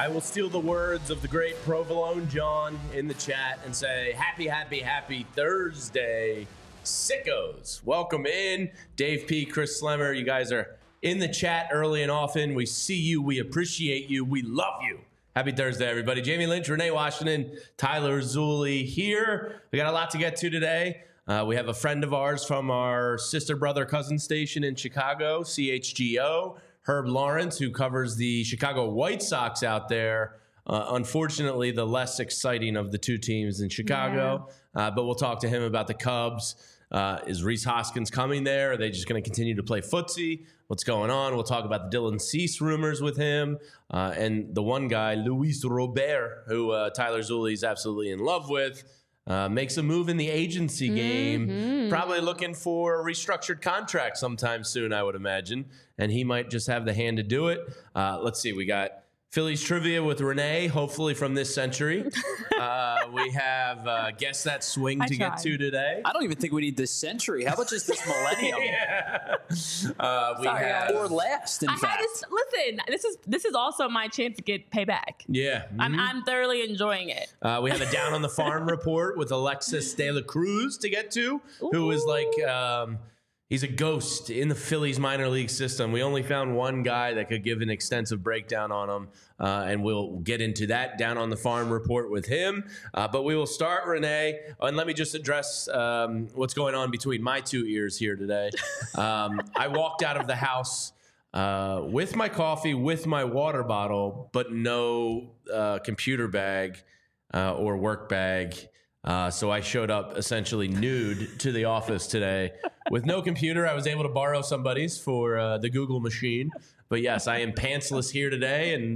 I will steal the words of the great Provolone John in the chat and say, happy Thursday, sickos. Welcome in. Dave P., Chris Slemmer, you guys are in the chat early and often. We see you. We appreciate you. We love you. Happy Thursday, everybody. Jamie Lynch, Renee Washington, Tyler Zulli here. We got a lot to get to today. We have a friend of ours from our sister, brother, cousin station in Chicago, CHGO, Herb Lawrence, who covers the Chicago White Sox out there. Unfortunately, the less exciting of the two teams in Chicago. Yeah. But we'll talk to him about the Cubs. Is Rhys Hoskins coming there? Are they just going to continue to play footsie? What's going on? We'll talk about the Dylan Cease rumors with him. And the one guy, Luis Robert, who Tyler Zulli is absolutely in love with. Makes a move in the agency game, probably looking for a restructured contract sometime soon, I would imagine. And he might just have the hand to do it. Let's see. We got Phillies trivia with Renee, hopefully from this century. We have Guess That Swing to get to today. I don't even think we need this century. How about just this millennium? We have, or last, in fact. Listen, this is also my chance to get payback. Yeah. I'm thoroughly enjoying it. We have a Down on the Farm report with Alexis De La Cruz to get to, who is like... he's a ghost in the Phillies minor league system. We only found one guy that could give an extensive breakdown on him, and we'll get into that Down on the Farm report with him. But we will start, Renee, and let me just address what's going on between my two ears here today. I walked out of the house with my coffee, with my water bottle, but no computer bag or work bag. So I showed up essentially nude to the office today with no computer. I was able to borrow somebody's for the Google machine. But yes, I am pantsless here today. And,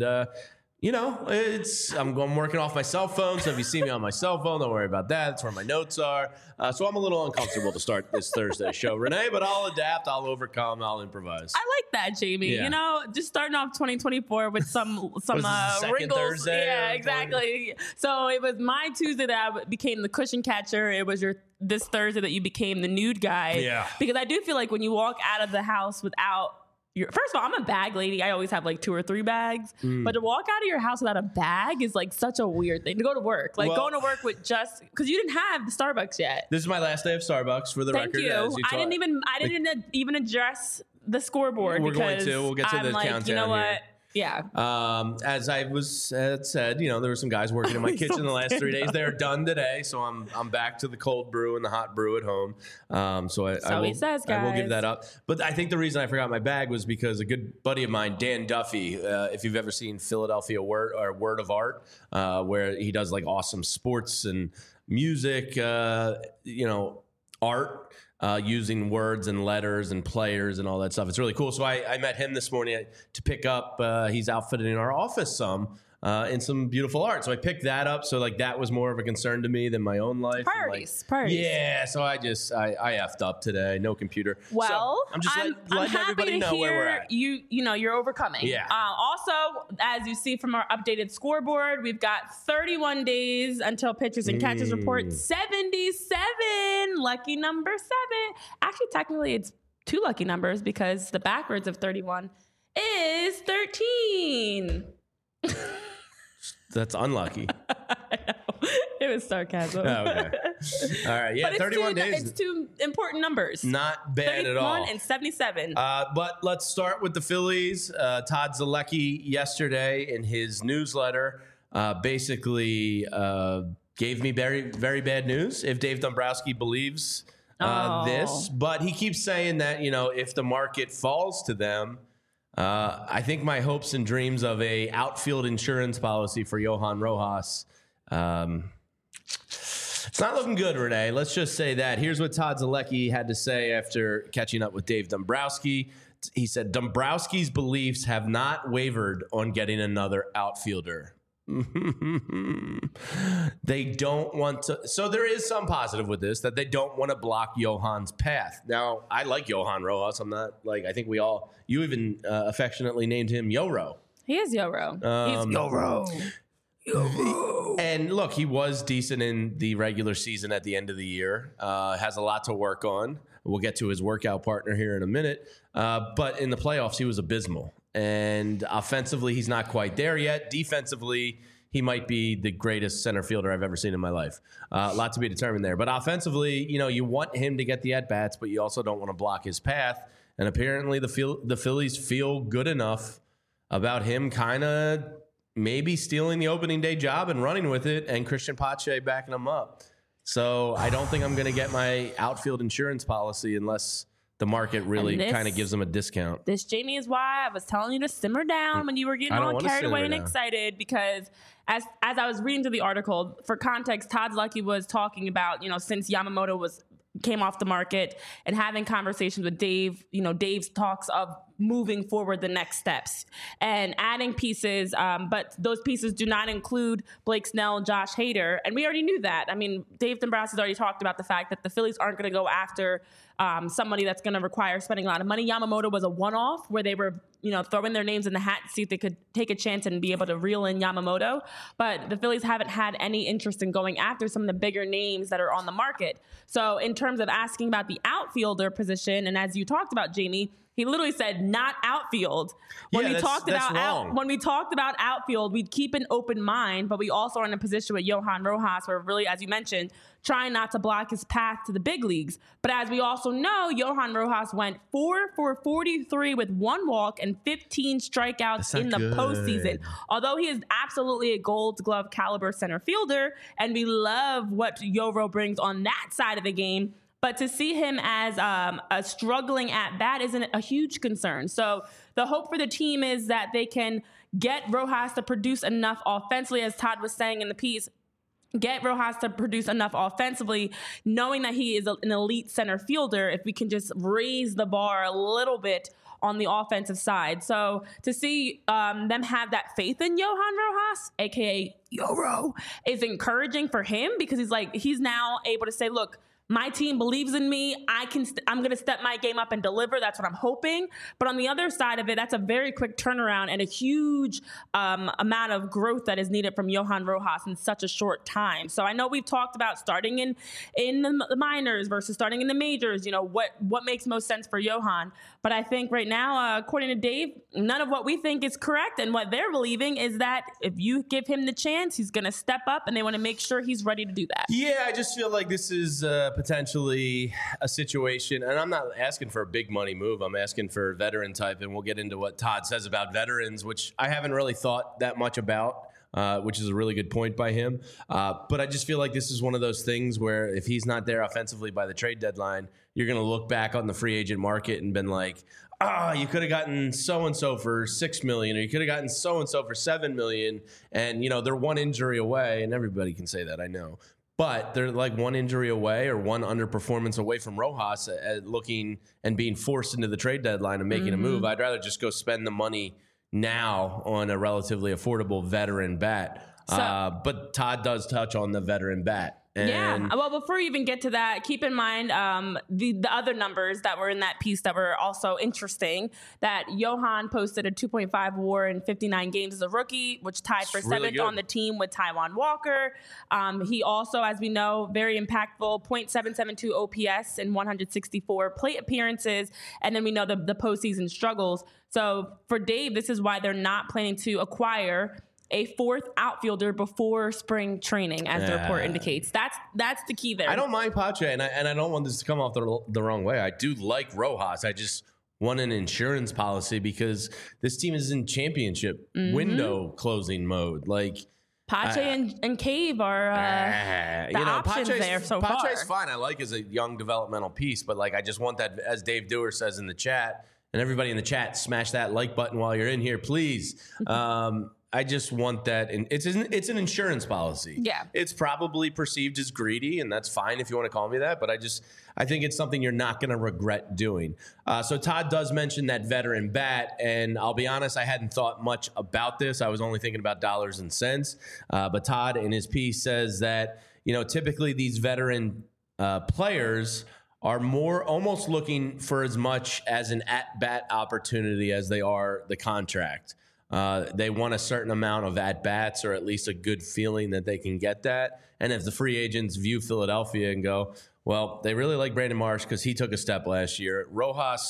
I'm working off my cell phone. So if you see me on my cell phone, don't worry about that. That's where my notes are. So I'm a little uncomfortable to start this Thursday show, Renee, but I'll adapt. I'll overcome. I'll improvise. I like that, Jamie. Yeah. Just starting off 2024 with some wrinkles. Thursday yeah, exactly. So it was my Tuesday that I became the cushion catcher. It was this Thursday that you became the nude guy. Yeah. Because I do feel like when you walk out of the house without first of all, I'm a bag lady. I always have like 2 or 3 bags. But to walk out of your house without a bag is like such a weird thing. To go to work. Like going to work with just... Because you didn't have the Starbucks yet. This is my last day of Starbucks, for the record. Thank you. I didn't even address the scoreboard. We'll get to the countdown you know what? Here. Yeah. As I said, there were some guys working in my kitchen the last 3 days. They're done today, so I'm back to the cold brew and the hot brew at home. I will give that up. But I think the reason I forgot my bag was because a good buddy of mine, Dan Duffy, if you've ever seen Philadelphia Word of Art, where he does like awesome sports and music, art. Using words and letters and players and all that stuff. It's really cool. So I met him this morning to pick up. He's outfitting our office in some beautiful art. So I picked that up. So like that was more of a concern to me than my own life. Priorities. Yeah. So I effed up today. No computer. Well, so I'm just letting everybody know where we're at. You're overcoming. Yeah. Also, as you see from our updated scoreboard, we've got 31 days until pitchers and catchers report. 77. Lucky number 7. Actually, technically, it's 2 lucky numbers because the backwards of 31 is 13. That's unlucky. I know. It was sarcasm. Oh, okay. All right. Yeah, 31 days. It's 2 important numbers. Not bad at all. 31 and 77. But let's start with the Phillies. Todd Zolecki yesterday in his newsletter basically gave me very, very bad news if Dave Dombrowski believes this. But he keeps saying that, if the market falls to them, I think my hopes and dreams of a outfield insurance policy for Johan Rojas, it's not looking good, Renee. Let's just say that. Here's what Todd Zolecki had to say after catching up with Dave Dombrowski. He said, Dombrowski's beliefs have not wavered on getting another outfielder. They don't want to. So there is some positive with this, that they don't want to block Johan's path. Now, I like Johan Rojas. I'm not I think you even affectionately named him Yoro. He is Yoro. He's Yoro. And look, he was decent in the regular season at the end of the year. Has a lot to work on. We'll get to his workout partner here in a minute. But in the playoffs, he was abysmal. And offensively, he's not quite there yet. Defensively, he might be the greatest center fielder I've ever seen in my life. A lot to be determined there. But offensively, you want him to get the at-bats, but you also don't want to block his path. And apparently the Phillies feel good enough about him kind of maybe stealing the opening day job and running with it, and Christian Pache backing him up. So I don't think I'm going to get my outfield insurance policy unless the market really kind of gives them a discount. This, Jamie, is why I was telling you to simmer down when you were getting all carried away and excited, because as I was reading through the article, for context, Todd Luckey was talking about, since Yamamoto came off the market and having conversations with Dave, Dave's talks of moving forward the next steps and adding pieces. But those pieces do not include Blake Snell, Josh Hader. And we already knew that. I mean, Dave Dombrowski's already talked about the fact that the Phillies aren't going to go after somebody that's going to require spending a lot of money. Yamamoto was a one-off where they were, throwing their names in the hat to see if they could take a chance and be able to reel in Yamamoto. But the Phillies haven't had any interest in going after some of the bigger names that are on the market. So in terms of asking about the outfielder position, and as you talked about, Jamie, he literally said not outfield. When we talked about outfield, we'd keep an open mind, but we also are in a position with Johan Rojas where really, as you mentioned, trying not to block his path to the big leagues. But as we also know, Johan Rojas went 4 for 43 with 1 walk and 15 strikeouts in the postseason. Although he is absolutely a Gold Glove caliber center fielder, and we love what Yoro brings on that side of the game, but to see him as a struggling at bat isn't a huge concern. So the hope for the team is that they can get Rojas to produce enough offensively, as Todd was saying in the piece, get Rojas to produce enough offensively, knowing that he is an elite center fielder, if we can just raise the bar a little bit on the offensive side. So to see them have that faith in Johan Rojas, a.k.a. Yoro, is encouraging for him, because he's now able to say, look, my team believes in me. I'm going to step my game up and deliver. That's what I'm hoping. But on the other side of it, that's a very quick turnaround and a huge amount of growth that is needed from Johan Rojas in such a short time. So I know we've talked about starting in the minors versus starting in the majors. What makes most sense for Johan. But I think right now, according to Dave, none of what we think is correct. And what they're believing is that if you give him the chance, he's going to step up, and they want to make sure he's ready to do that. Yeah, I just feel like this is potentially a situation, and I'm not asking for a big money move. I'm asking for veteran type, and we'll get into what Todd says about veterans, which I haven't really thought that much about, which is a really good point by him. But I just feel like this is one of those things where if he's not there offensively by the trade deadline, you're going to look back on the free agent market and been like, you could have gotten so-and-so for $6 million, or you could have gotten so-and-so for $7 million. And, they're one injury away, and everybody can say that, I know. But they're like one injury away or one underperformance away from Rojas looking and being forced into the trade deadline and making a move. I'd rather just go spend the money now on a relatively affordable veteran bat. But Todd does touch on the veteran bat. And well, before you even get to that, keep in mind the other numbers that were in that piece that were also interesting. That Johan posted a 2.5 WAR in 59 games as a rookie, which tied for seventh on the team with Taijuan Walker. He also, as we know, very impactful, .772 OPS in 164 plate appearances. And then we know the postseason struggles. So for Dave, this is why they're not planning to acquire a 4th outfielder before spring training, as the report indicates. That's the key there. I don't mind Pache, and I don't want this to come off the wrong way. I do like Rojas. I just want an insurance policy because this team is in championship window closing mode. Like Pache and Cave are the options there so far. Pache's fine. I like as a young developmental piece, but I just want that, as Dave Dewar says in the chat, and everybody in the chat, smash that like button while you're in here, please. I just want that. And it's an insurance policy. Yeah. It's probably perceived as greedy, and that's fine if you want to call me that. But I think it's something you're not going to regret doing. So Todd does mention that veteran bat. And I'll be honest, I hadn't thought much about this. I was only thinking about dollars and cents. But Todd in his piece says that, typically these veteran players are almost looking for as much as an at-bat opportunity as they are the contract. They want a certain amount of at-bats, or at least a good feeling that they can get that. And if the free agents view Philadelphia and go, well, they really like Brandon Marsh because he took a step last year. Rojas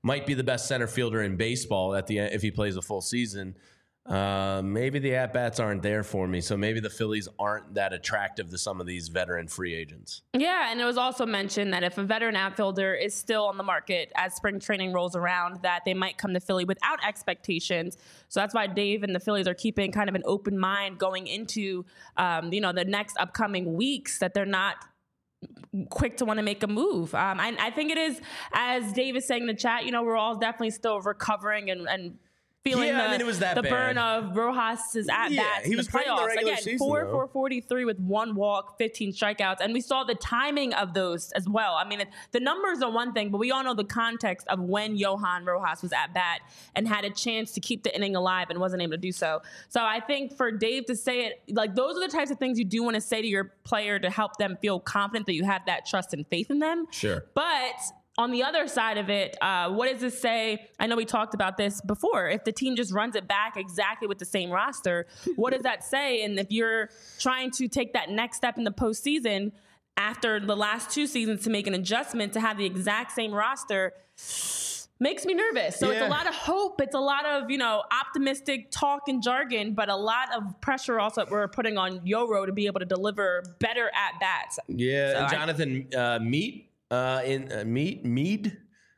might be the best center fielder in baseball at the end if he plays a full season. Maybe the at-bats aren't there for me, so maybe the Phillies aren't that attractive to some of these veteran free agents. Yeah, and it was also mentioned that if a veteran outfielder is still on the market as spring training rolls around, that they might come to Philly without expectations. So that's why Dave and the Phillies are keeping kind of an open mind going into, the next upcoming weeks, that they're not quick to want to make a move. I think it is, as Dave is saying in the chat, we're all definitely still recovering and feeling it was that the bad. burn of Rojas's at-bats in the playoffs. Again, season, 4-for-43 with 1 walk, 15 strikeouts. And we saw the timing of those as well. I mean, the numbers are one thing, but we all know the context of when Johan Rojas was at bat and had a chance to keep the inning alive and wasn't able to do so. So I think for Dave to say it, like, those are the types of things you do want to say to your player to help them feel confident that you have that trust and faith in them. Sure. But on the other side of it, what does this say? I know we talked about this before. If the team just runs it back exactly with the same roster, what does that say? And if you're trying to take that next step in the postseason after the last 2 seasons to make an adjustment to have the exact same roster, makes me nervous. So It's a lot of hope. It's a lot of, optimistic talk and jargon, but a lot of pressure also that we're putting on Yoro to be able to deliver better at-bats. Yeah, So and Jonathan Mead. Mead.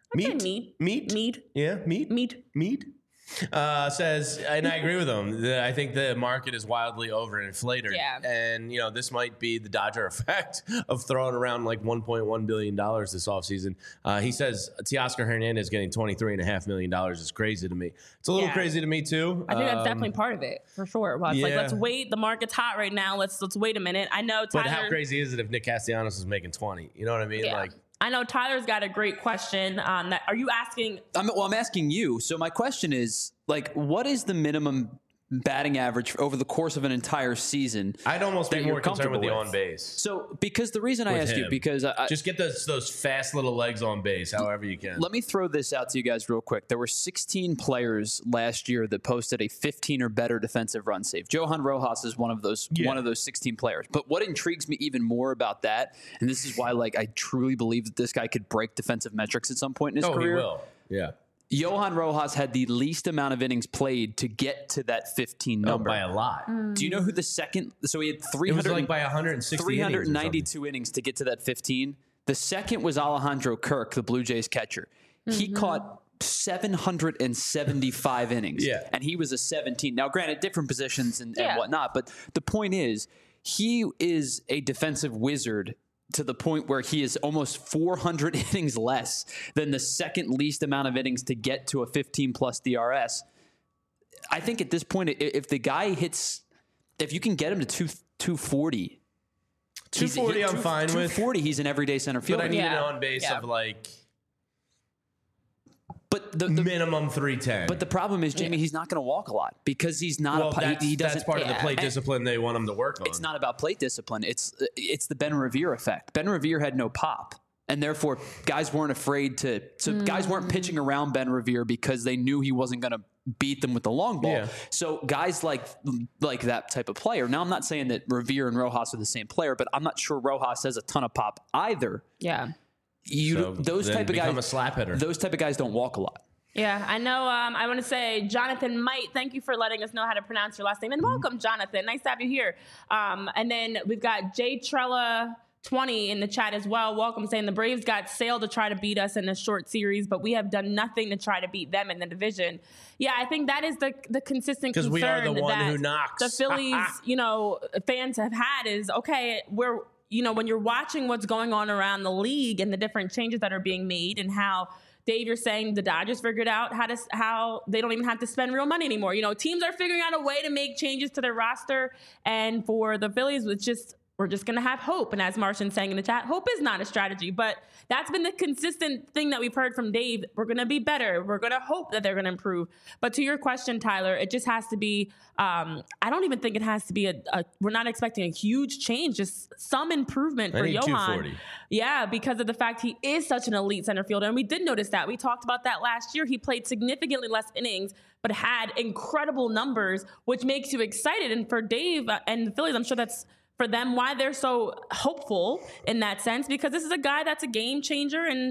Yeah, Mead. Says, and I agree with him. I think the market is wildly overinflated. Yeah. And, this might be the Dodger effect of throwing around like $1.1 billion this offseason. He says Teoscar Hernandez getting $23.5 million is crazy to me. It's a little crazy to me, too. I think that's definitely part of it, for sure. Well, it's like, let's wait. The market's hot right now. Let's wait a minute. I know Tyler. But how crazy is it if Nick Castellanos is making 20? You know what I mean? Yeah. I know Tyler's got a great question on that. Are you asking? I'm asking you. So my question is, what is the minimum batting average over the course of an entire season? I'd almost be more concerned with the on base. So, because the reason I ask you, because I just get those fast little legs on base, however you can. Let me throw this out to you guys real quick. There were 16 players last year that posted a 15 or better defensive run save. Johan Rojas is one of those 16 players. But what intrigues me even more about that, and this is why I truly believe that this guy could break defensive metrics at some point in his career. He will. Yeah. Johan Rojas had the least amount of innings played to get to that 15 number. By a lot. Do you know who the second? So he had 392 innings to get to that 15. The second was Alejandro Kirk, the Blue Jays catcher. He caught 775 innings. Yeah. And he was a 17. Now, granted, different positions and whatnot, but the point is, he is a defensive wizard to the point where he is almost 400 innings less than the second least amount of innings to get to a 15-plus DRS. I think at this point, if the guy hits, if you can get him to 240, 240 I'm fine with. 240, he's an everyday center fielder. But I need an on base of But the minimum 310. But the problem is, Jamie, he's not going to walk a lot because he's not. That's part of the plate discipline they want him to work on. It's not about plate discipline. It's the Ben Revere effect. Ben Revere had no pop, and therefore guys weren't afraid to. So guys weren't pitching around Ben Revere because they knew he wasn't going to beat them with the long ball. Yeah. So guys like that type of player. Now I'm not saying that Revere and Rojas are the same player, but I'm not sure Rojas has a ton of pop either. Yeah. Those type of guys, a slap hitter. Those type of guys don't walk a lot. Yeah, I know. I want to say, Jonathan Might, thank you for letting us know how to pronounce your last name. And welcome, Jonathan. Nice to have you here. And then we've got Jay Trella 20 in the chat as well. Welcome, saying the Braves got Sale to try to beat us in a short series, but we have done nothing to try to beat them in the division. Yeah, I think that is the consistent concern. Because we are the one who knocks. The Phillies, fans have had is, okay, when you're watching what's going on around the league and the different changes that are being made and how, Dave, you're saying the Dodgers figured out how they don't even have to spend real money anymore. Teams are figuring out a way to make changes to their roster. And for the Phillies, we're just going to have hope. And as Martian's saying in the chat, hope is not a strategy. But that's been the consistent thing that we've heard from Dave. We're going to be better. We're going to hope that they're going to improve. But to your question, Tyler, it just has to be, I don't even think it has to be we're not expecting a huge change, just some improvement for Johan. 240. Yeah, because of the fact he is such an elite center fielder. And we did notice that. We talked about that last year. He played significantly less innings, but had incredible numbers, which makes you excited. And for Dave and the Phillies, I'm sure that's for them why they're so hopeful in that sense, because this is a guy that's a game changer and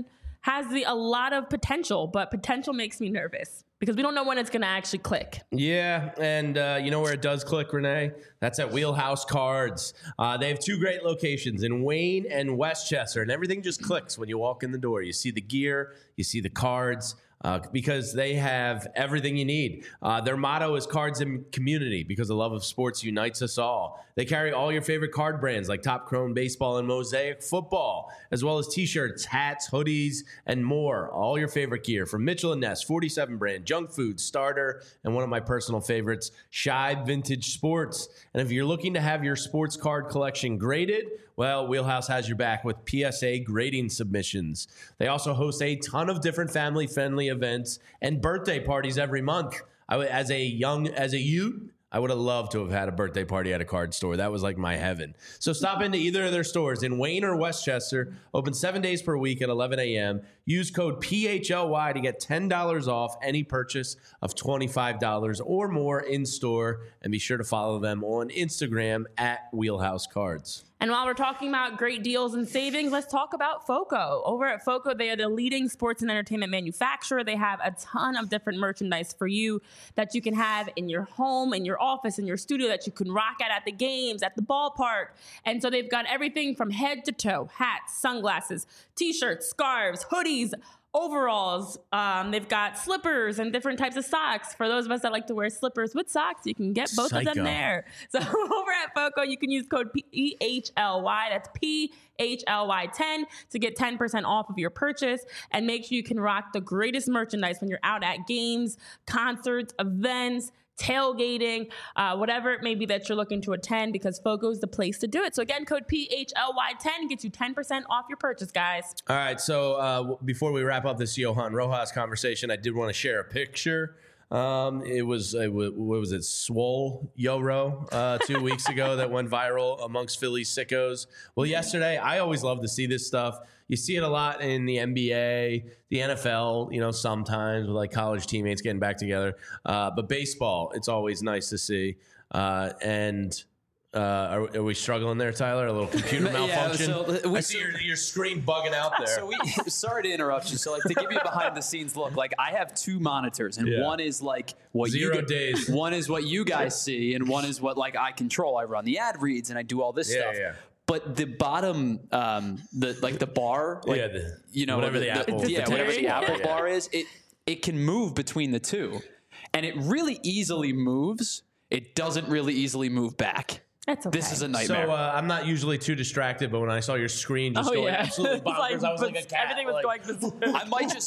has a lot of potential, but potential makes me nervous because we don't know when it's going to actually click. Yeah, and you know where it does click, Renee? That's at Wheelhouse Cards. They have 2 great locations in Wayne and Westchester, and everything just clicks when you walk in the door. You see the gear, you see the cards, because they have everything you need. Their motto is Cards and Community, because the love of sports unites us all. They carry all your favorite card brands like Top Chrome Baseball and Mosaic Football, as well as t-shirts, hats, hoodies, and more. All your favorite gear from Mitchell & Ness, 47 brand, Junk Food, Starter, and one of my personal favorites, Shibe Vintage Sports. And if you're looking to have your sports card collection graded, well, Wheelhouse has your back with PSA grading submissions. They also host a ton of different family-friendly events and birthday parties every month. As a youth, I would have loved to have had a birthday party at a card store. That was like my heaven. So stop into either of their stores in Wayne or Westchester. Open 7 days per week at 11 a.m. Use code PHLY to get $10 off any purchase of $25 or more in store. And be sure to follow them on Instagram at Wheelhouse Cards. And while we're talking about great deals and savings, let's talk about FOCO. Over at FOCO, they are the leading sports and entertainment manufacturer. They have a ton of different merchandise for you that you can have in your home, in your office, in your studio, that you can rock at the games, at the ballpark. And so they've got everything from head to toe: hats, sunglasses, t-shirts, scarves, hoodies, overalls. They've got slippers and different types of socks. For those of us that like to wear slippers with socks, you can get both of them there. So over at FOCO, you can use code PHLY. That's PHLY10 to get 10% off of your purchase. And make sure you can rock the greatest merchandise when you're out at games, concerts, events, tailgating, whatever it may be that you're looking to attend, because FOCO is the place to do it. So again, code PHLY10 gets you 10% off your purchase, guys. All right, so before we wrap up this Johan Rojas conversation, I did want to share a picture. What was it, Swole Yoro 2 weeks ago that went viral amongst Philly sickos. Well, yesterday, I always love to see this stuff. You see it a lot in the NBA, the NFL, you know, sometimes with like college teammates getting back together. But baseball, it's always nice to see. Are we struggling there, Tyler? A little computer malfunction? I see your screen bugging out there. So sorry to interrupt you. So like, to give you a behind the scenes look, like I have 2 monitors, and one is like what 0 days. One is what you guys see, and one is what like I control. I run the ad reads and I do all this stuff. Yeah. But the bottom, the bar, like, whatever the Apple, whatever the Apple bar is, it can move between the two, and it really easily moves. It doesn't really easily move back. That's okay. This is a nightmare. So I'm not usually too distracted, but when I saw your screen just going absolutely bonkers, I was like a cat. Everything was going.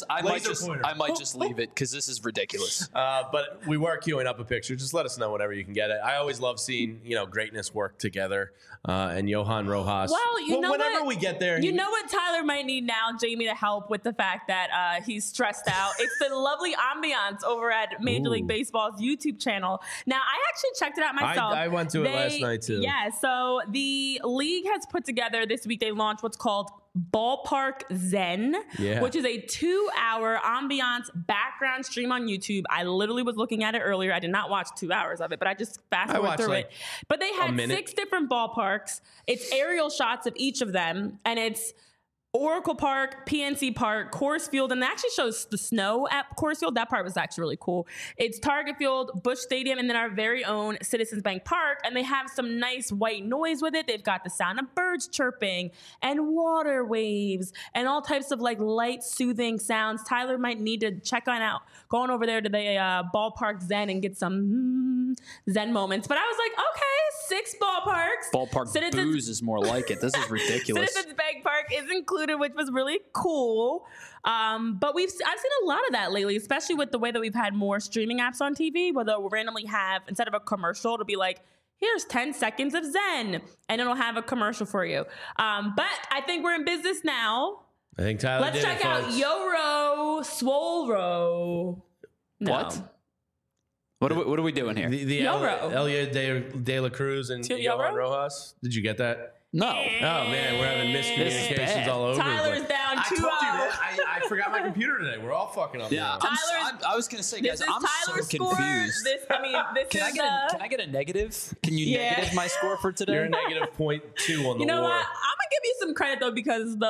I might just leave it because this is ridiculous. But we were queuing up a picture. Just let us know whenever you can get it. I always love seeing greatness work together. And Johan Rojas. Well, whenever we get there, you know what Tyler might need now, Jamie, to help with the fact that he's stressed out. It's the lovely ambiance over at Major League Baseball's YouTube channel. Now, I actually checked it out myself. I went to it last night too. Yeah, so the league has put together this week. They launched what's called Ballpark Zen, which is a 2-hour ambiance background stream on YouTube. I literally was looking at it earlier. I did not watch 2 hours of it, but I just fast forward through it. But they had 6 different ballparks. It's aerial shots of each of them, and it's Oracle Park, PNC Park, Coors Field, and it actually shows the snow at Coors Field. That part was actually really cool. It's Target Field, Busch Stadium, and then our very own Citizens Bank Park, and they have some nice white noise with it. They've got the sound of birds chirping and water waves and all types of like light, soothing sounds. Tyler might need to check out going over there to the Ballpark Zen and get some Zen moments. But I was like, okay, 6 ballparks. Ballpark booze is more like it. This is ridiculous. Citizens Bank Park is included, which was really cool. But I've seen a lot of that lately, especially with the way that we've had more streaming apps on TV, where they'll randomly have, instead of a commercial, it'll be like, here's 10 seconds of Zen, and it'll have a commercial for you. But I think we're in business now. I think Tyler Let's check out Yoro Swolro. No. What? What are we doing here? The Elia de la Cruz and Johan Rojas. Did you get that? No. Oh, man, we're having miscommunications all over. Tyler's down 2 hours. I told you that. I forgot my computer today. We're all fucking up. Yeah. I was going to say, guys, I'm so confused. Can I get a negative? Can you negative my score for today? You're a -0.2 on the You know war. what? I'm going to give you some credit, though, because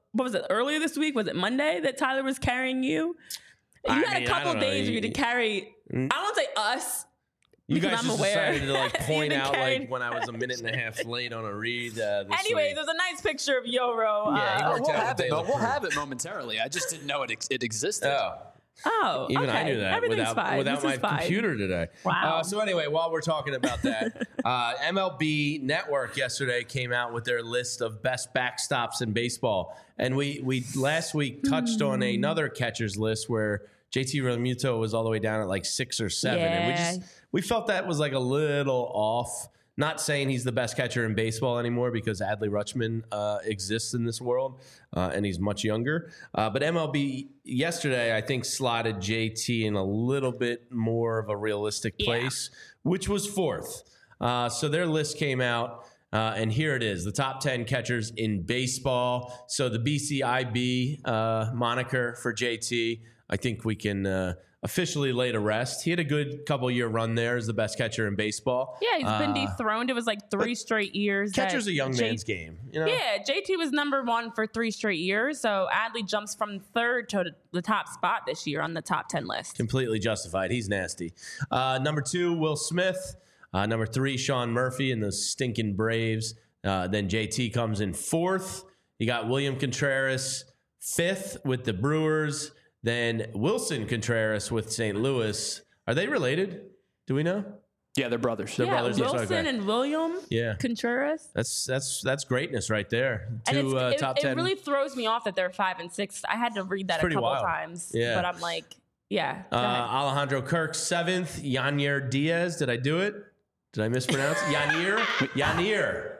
what was it, earlier this week? Was it Monday that Tyler was carrying you? You had a couple days for you to carry, I won't say us. You guys just decided to like point out carried. like when I was a minute and a half late on a read. Anyways, there's a nice picture of Yoro. Yeah, we'll have it momentarily. I I didn't know it existed. Oh, even okay. I knew that Everything's without my computer today. Wow. So anyway, while we're talking about that, MLB Network yesterday came out with their list of best backstops in baseball, and we last week touched on another catcher's list where JT Realmuto was all the way down at like 6 or 7, and we felt that was like a little off. Not saying he's the best catcher in baseball anymore because Adley Rutschman exists in this world and he's much younger. But MLB yesterday, I think, slotted JT in a little bit more of a realistic place, which was 4th. So their list came out. And here it is, the top 10 catchers in baseball. So the BCIB moniker for JT, I think we can officially lay to rest. He had a good couple-year run there as the best catcher in baseball. Yeah, he's been dethroned. It was like 3 straight years. Catcher's a young man's game. You know? Yeah, JT was number 1 for 3 straight years. So Adley jumps from 3rd to the top spot this year on the top 10 list. Completely justified. He's nasty. Number 2, Will Smith. Number 3, Sean Murphy and the stinking Braves. Then JT comes in 4th. You got William Contreras 5th with the Brewers. Then Wilson Contreras with St. Louis. Are they related? Do we know? Yeah, they're brothers. They're brothers. Wilson and William Contreras. That's greatness right there. And Top 10. It really throws me off that they're 5 and 6. I had to read that a couple times. Yeah. But I'm like, yeah. Alejandro Kirk 7th. Yanier Diaz. Did I do it? Did I mispronounce? Yanier.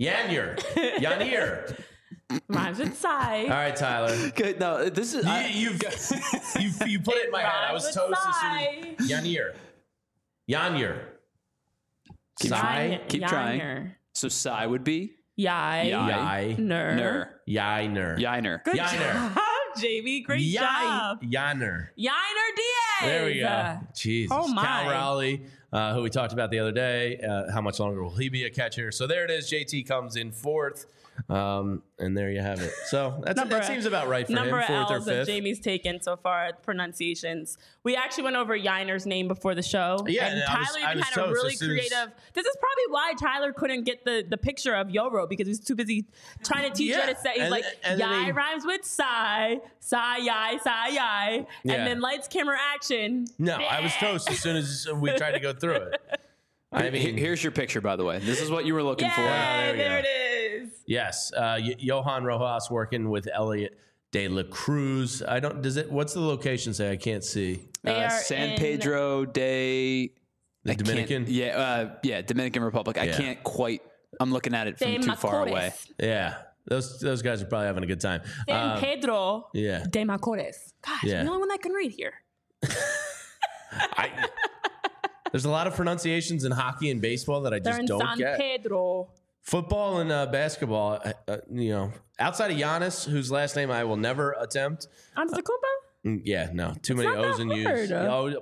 Rhymes with Psy. All right, Tyler. Good. No, this is you put it in my head. I was toast as soon as Yanier. Keep trying. So Psy would be Yiner. Good job, JB. Great job. Yiner Diaz. There we go. Jesus. Oh my. Cal Raleigh, who we talked about the other day. How much longer will he be a catcher? So there it is. JT comes in 4th. And there you have it. So that seems about right for him. 4th or 5th. That Jamie's taken so far, pronunciations. We actually went over Yiner's name before the show. Yeah, and Tyler even had a really creative. This is probably why Tyler couldn't get the picture of Yoro because he was too busy trying to teach her to say. He's like, Yai rhymes with Psy, Yai. And then lights, camera, action. No, I was toast as soon as we tried to go through it. I mean, here's your picture, by the way. This is what you were looking for. There it is. Yes, Johan Rojas working with Elliot De La Cruz. What's the location say? I can't see. San Pedro de the Dominican. Dominican Republic. I can't quite. I'm looking at it from too far away. Yeah, those guys are probably having a good time. San Pedro de Macorís. Gosh, I'm the only one that can read here. There's a lot of pronunciations in hockey and baseball that I just don't get. San Pedro. Football and basketball, outside of Giannis, whose last name I will never attempt. Antetokounmpo? Yeah, no. Too many O's and U's.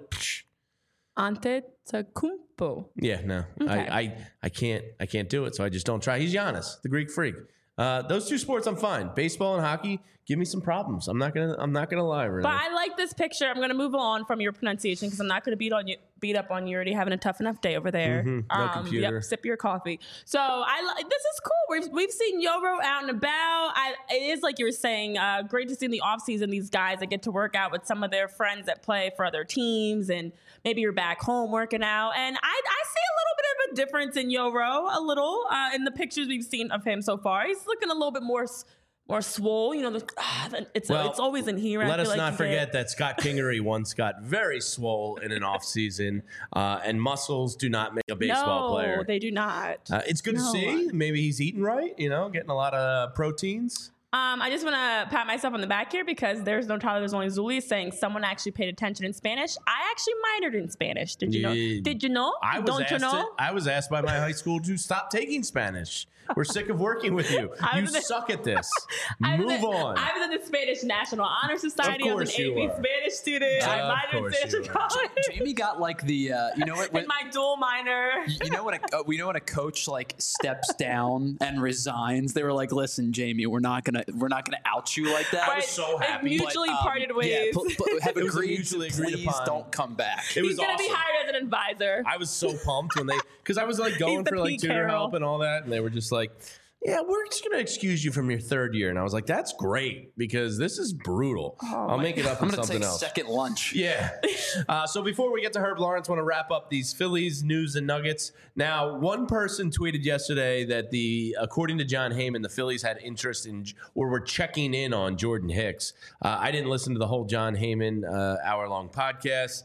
Antetokounmpo. Yeah, no. Okay. I can't do it, so I just don't try. He's Giannis, the Greek freak. Those 2 sports I'm fine. Baseball and hockey give me some problems. I'm not gonna lie, Renee. But I like this picture. I'm gonna move on from your pronunciation because I'm not gonna beat up on you. Already having a tough enough day over there. No computer. Yep, sip your coffee. So this is cool. We've seen Yoro out and about. It is like you were saying, great to see in the off season these guys that get to work out with some of their friends that play for other teams, and maybe you're back home working out. And I see a little bit of a difference in Yoro, in the pictures we've seen of him so far. He's looking a little bit more swole. It's always in here. Let us not forget that Scott Kingery once got very swole in an off season, and muscles do not make a baseball player. No, they do not. It's good to see. Maybe he's eating right, getting a lot of proteins. I just want to pat myself on the back here because there's no Tyler, there's only Zuli saying someone actually paid attention in Spanish. I actually minored in Spanish. Did you know? Did you know? Don't you know? I was asked by my high school to stop taking Spanish. We're sick of working with you. You suck at this. Move on. I was in the Spanish National Honor Society. I was an AP Spanish student. I minored in Spanish in college. Jamie got like the, in my dual minor. You know when a coach like steps down and resigns, they were like, "Listen, Jamie, we're not gonna out you like that." I was so happy. Mutually parted ways. Have agreed. Mutually agreed Please upon. don't come back. He's gonna be hired as an advisor. I was so pumped when because I was like going for like Pete tutor Carroll. help and all that, and they were just like, "Yeah, we're just gonna excuse you from your third year," and I was like, "That's great because this is brutal. I'll make it up I'm in gonna something take else." second lunch. Yeah. So before we get to Herb Lawrence, I want to wrap up these Phillies news and nuggets. Now, one person tweeted yesterday that according to John Heyman, the Phillies had interest in or were checking in on Jordan Hicks. I didn't listen to the whole John Heyman hour-long podcast,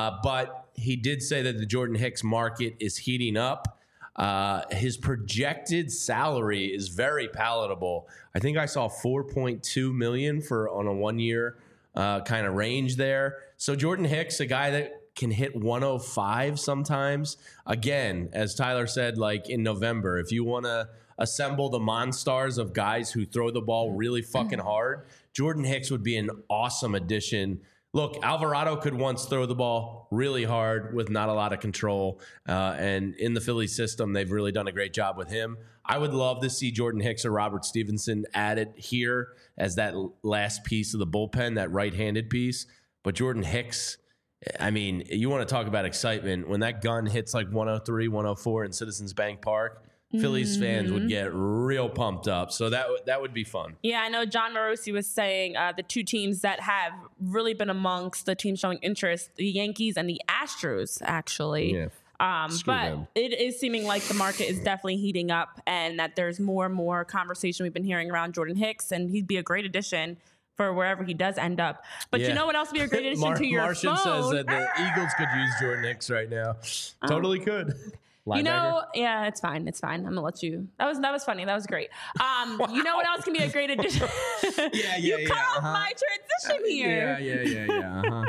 but he did say that the Jordan Hicks market is heating up. His projected salary is very palatable. I think I saw $4.2 million on a 1 year kind of range there. So Jordan Hicks, a guy that can hit 105 sometimes. Again, as Tyler said, like in November, if you want to assemble the monstars of guys who throw the ball really fucking hard, Jordan Hicks would be an awesome addition. Look, Alvarado could once throw the ball really hard with not a lot of control. And in the Philly system, they've really done a great job with him. I would love to see Jordan Hicks or Robert Stevenson added here as that last piece of the bullpen, that right-handed piece. But Jordan Hicks, I mean, you want to talk about excitement. When that gun hits like 103, 104 in Citizens Bank Park, Phillies fans would get real pumped up. So that would be fun. Yeah, I know John Morosi was saying the two teams that have really been amongst the teams showing interest, the Yankees and the Astros, actually. Yeah. But them. it is seeming like the market is definitely heating up and that there's more and more conversation we've been hearing around Jordan Hicks, and he'd be a great addition for wherever he does end up. But you know what else would be a great addition to your Martian phone? says that the Eagles could use Jordan Hicks right now. Totally could. You know, yeah, it's fine. It's fine. I'm gonna let you. That was funny. That was great. You know what else can be a great addition? You cut off my transition here. Yeah.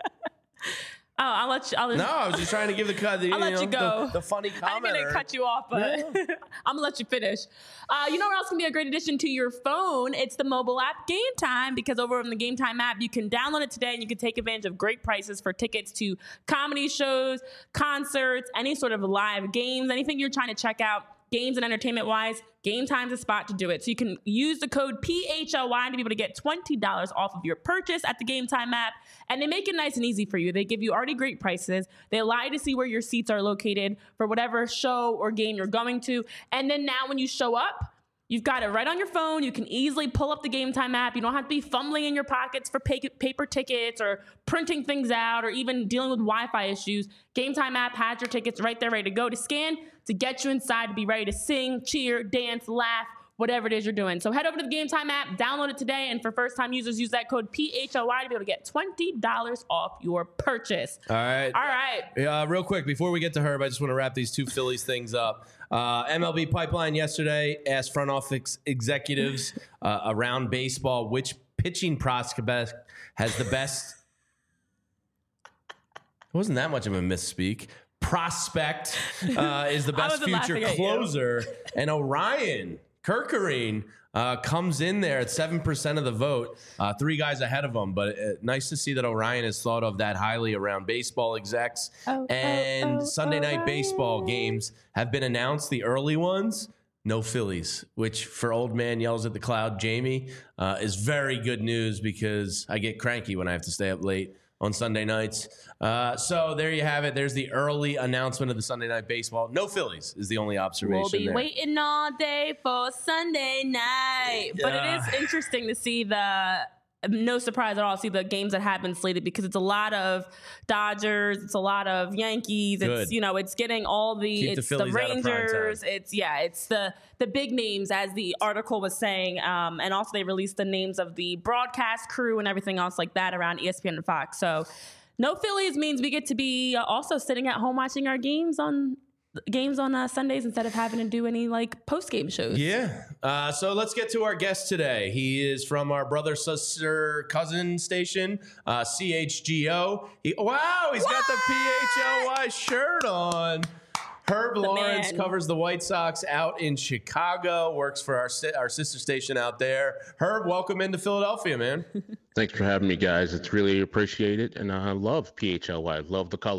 Oh, I'll let you. No, I was just trying to give the cut. I'll let you go. The funny comment. I'm gonna cut you off, but I'm gonna let you finish. You know what else can be a great addition to your phone? It's the mobile app Game Time, because over on the Game Time app, you can download it today and you can take advantage of great prices for tickets to comedy shows, concerts, any sort of live games, anything you're trying to check out. Games and entertainment wise, Game Time's a spot to do it. So you can use the code PHLY to be able to get $20 off of your purchase at the Game Time app. And they make it nice and easy for you. They give you already great prices. They allow you to see where your seats are located for whatever show or game you're going to. And then now when you show up, you've got it right on your phone. You can easily pull up the Game Time app. You don't have to be fumbling in your pockets for paper tickets or printing things out or even dealing with Wi-Fi issues. Game Time app has your tickets right there ready to go to scan to get you inside to be ready to sing, cheer, dance, laugh, whatever it is you're doing. So head over to the Game Time app, download it today, and for first-time users, use that code PHLY to be able to get $20 off your purchase. All right. Real quick, before we get to Herb, I just want to wrap these two Phillies things up. MLB Pipeline yesterday asked front office executives around baseball which pitching prospect has the best. It wasn't that much of a misspeak. Prospect is the best future closer, and Orion Kerkering comes in there at 7% of the vote, 3 guys ahead of him. But nice to see that Orion is thought of that highly around baseball execs. Sunday night baseball games have been announced, the early ones. No Phillies, which for old man yells at the cloud, Jamie, is very good news because I get cranky when I have to stay up late on Sunday nights. So there you have it. There's the early announcement of the Sunday night baseball. No Phillies is the only observation. We'll be waiting all day for Sunday night. But it is interesting to see no surprise at all, see the games that have been slated, because it's a lot of Dodgers, it's a lot of Yankees. Good. It's, it's getting all it's the Rangers. It's the big names, as the article was saying. And also they released the names of the broadcast crew and everything else like that around ESPN and Fox. So no Phillies means we get to be also sitting at home watching our games on Sundays instead of having to do any post-game shows. Yeah. So let's get to our guest today. He is from our brother, sister, cousin station, CHGO. He's got the PHLY shirt on. Herb Lawrence covers the White Sox out in Chicago, works for our sister station out there. Herb, welcome into Philadelphia, man. Thanks for having me, guys. It's really appreciated, and I love PHLY. Love the colors.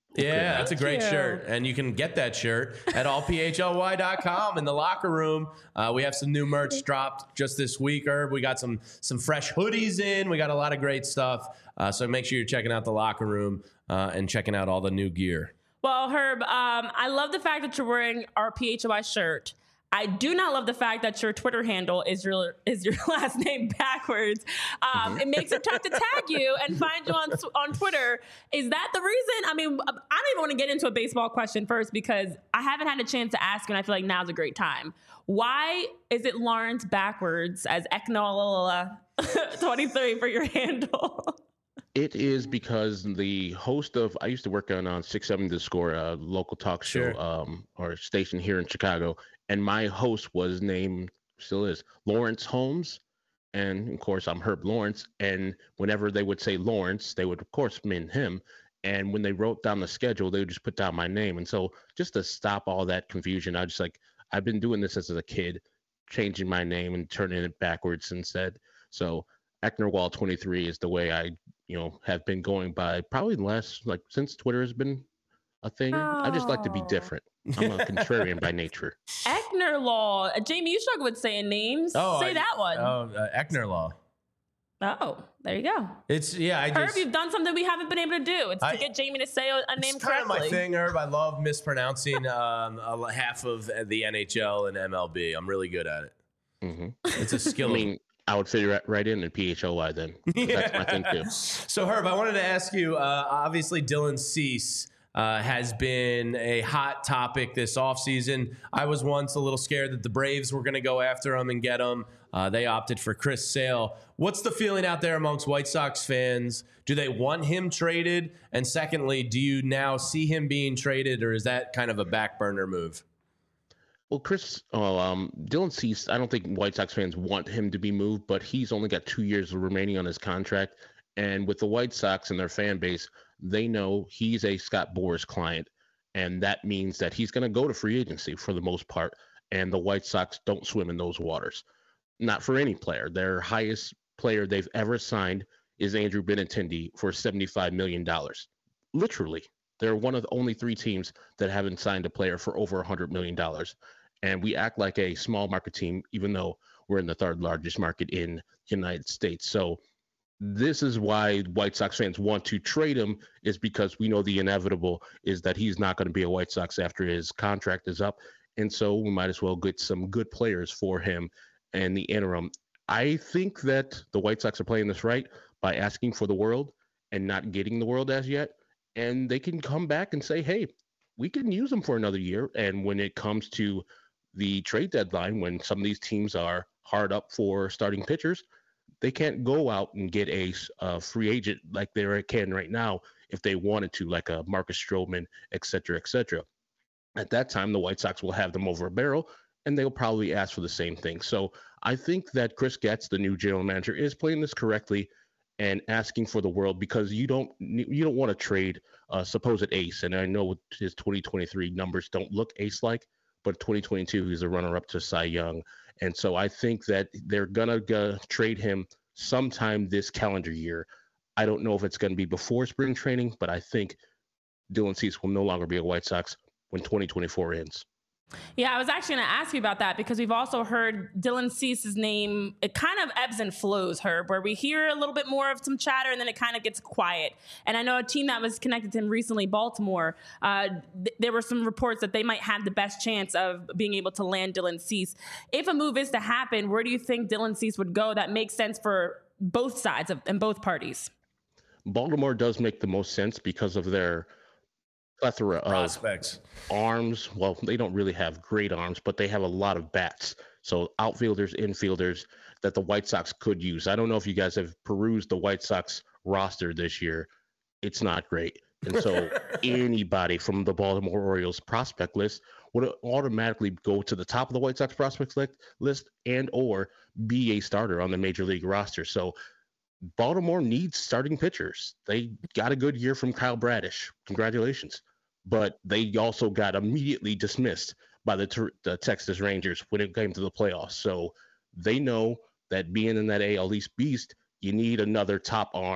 Yeah, that's a great shirt. And you can get that shirt at allphly.com in the locker room. We have some new merch dropped just this week, Herb. We got some fresh hoodies in. We got a lot of great stuff. So make sure you're checking out the locker room and checking out all the new gear. Well, Herb, I love the fact that you're wearing our PHY shirt. I do not love the fact that your Twitter handle is your last name backwards. It makes it tough to tag you and find you on Twitter. Is that the reason? I mean, I don't even want to get into a baseball question first because I haven't had a chance to ask you, and I feel like now's a great time. Why is it Lawrence backwards as Eknola 23 for your handle? It is because the host of, I used to work on 670 The Score, a local talk show or station here in Chicago. And my host was named, still is, Lawrence Holmes. And of course, I'm Herb Lawrence. And whenever they would say Lawrence, they would, of course, mean him. And when they wrote down the schedule, they would just put down my name. And so just to stop all that confusion, I've been doing this as a kid, changing my name and turning it backwards instead. So Eknerwall 23 is the way I, have been going by probably the last, since Twitter has been a thing. I just like to be different. I'm a contrarian by nature. Eknerlaw. Jamie, you struggle with saying names. Say that one. Eknerlaw. Oh, there you go. Herb, you've done something we haven't been able to do. It's to get Jamie to say a name correctly. It's kind of my thing, Herb. I love mispronouncing half of the NHL and MLB. I'm really good at it. Mm-hmm. It's a skill. I would fit right in PHLY then. That's my thing too. So, Herb, I wanted to ask you, obviously Dylan Cease has been a hot topic this offseason. I was once a little scared that the Braves were going to go after him and get him. They opted for Chris Sale. What's the feeling out there amongst White Sox fans? Do they want him traded? And secondly, do you now see him being traded, or is that kind of a back burner move? Well, Dylan Cease, I don't think White Sox fans want him to be moved, but he's only got 2 years remaining on his contract. And with the White Sox and their fan base, they know he's a Scott Boras client. And that means that he's going to go to free agency for the most part. And the White Sox don't swim in those waters. Not for any player. Their highest player they've ever signed is Andrew Benintendi for $75 million. Literally. They're one of the only 3 teams that haven't signed a player for over $100 million. And we act like a small market team, even though we're in the 3rd largest market in the United States. So this is why White Sox fans want to trade him, is because we know the inevitable is that he's not going to be a White Sox after his contract is up. And so we might as well get some good players for him in the interim. I think that the White Sox are playing this right by asking for the world and not getting the world as yet. And they can come back and say, hey, we can use them for another year. And when it comes to the trade deadline, when some of these teams are hard up for starting pitchers, they can't go out and get a free agent like they can right now if they wanted to, like a Marcus Stroman, et cetera, et cetera. At that time, the White Sox will have them over a barrel, and they'll probably ask for the same thing. So I think that Chris Getz, the new general manager, is playing this correctly and asking for the world, because you don't want to trade a supposed ace. And I know his 2023 numbers don't look ace-like, but 2022, he's a runner-up to Cy Young. And so I think that they're going to trade him sometime this calendar year. I don't know if it's going to be before spring training, but I think Dylan Cease will no longer be a White Sox when 2024 ends. Yeah, I was actually going to ask you about that, because we've also heard Dylan Cease's name. It kind of ebbs and flows, Herb, where we hear a little bit more of some chatter and then it kind of gets quiet. And I know a team that was connected to him recently, Baltimore, there were some reports that they might have the best chance of being able to land Dylan Cease. If a move is to happen, where do you think Dylan Cease would go that makes sense for both sides and both parties? Baltimore does make the most sense because of their plethora prospects, of arms. Well, they don't really have great arms, but they have a lot of bats. So outfielders, infielders that the White Sox could use. I don't know if you guys have perused the White Sox roster this year. It's not great. And so anybody from the Baltimore Orioles prospect list would automatically go to the top of the White Sox prospect list and or be a starter on the major league roster. So Baltimore needs starting pitchers. They got a good year from Kyle Bradish. Congratulations. But they also got immediately dismissed by the Texas Rangers when it came to the playoffs. So they know that being in that AL East beast, you need another top arm.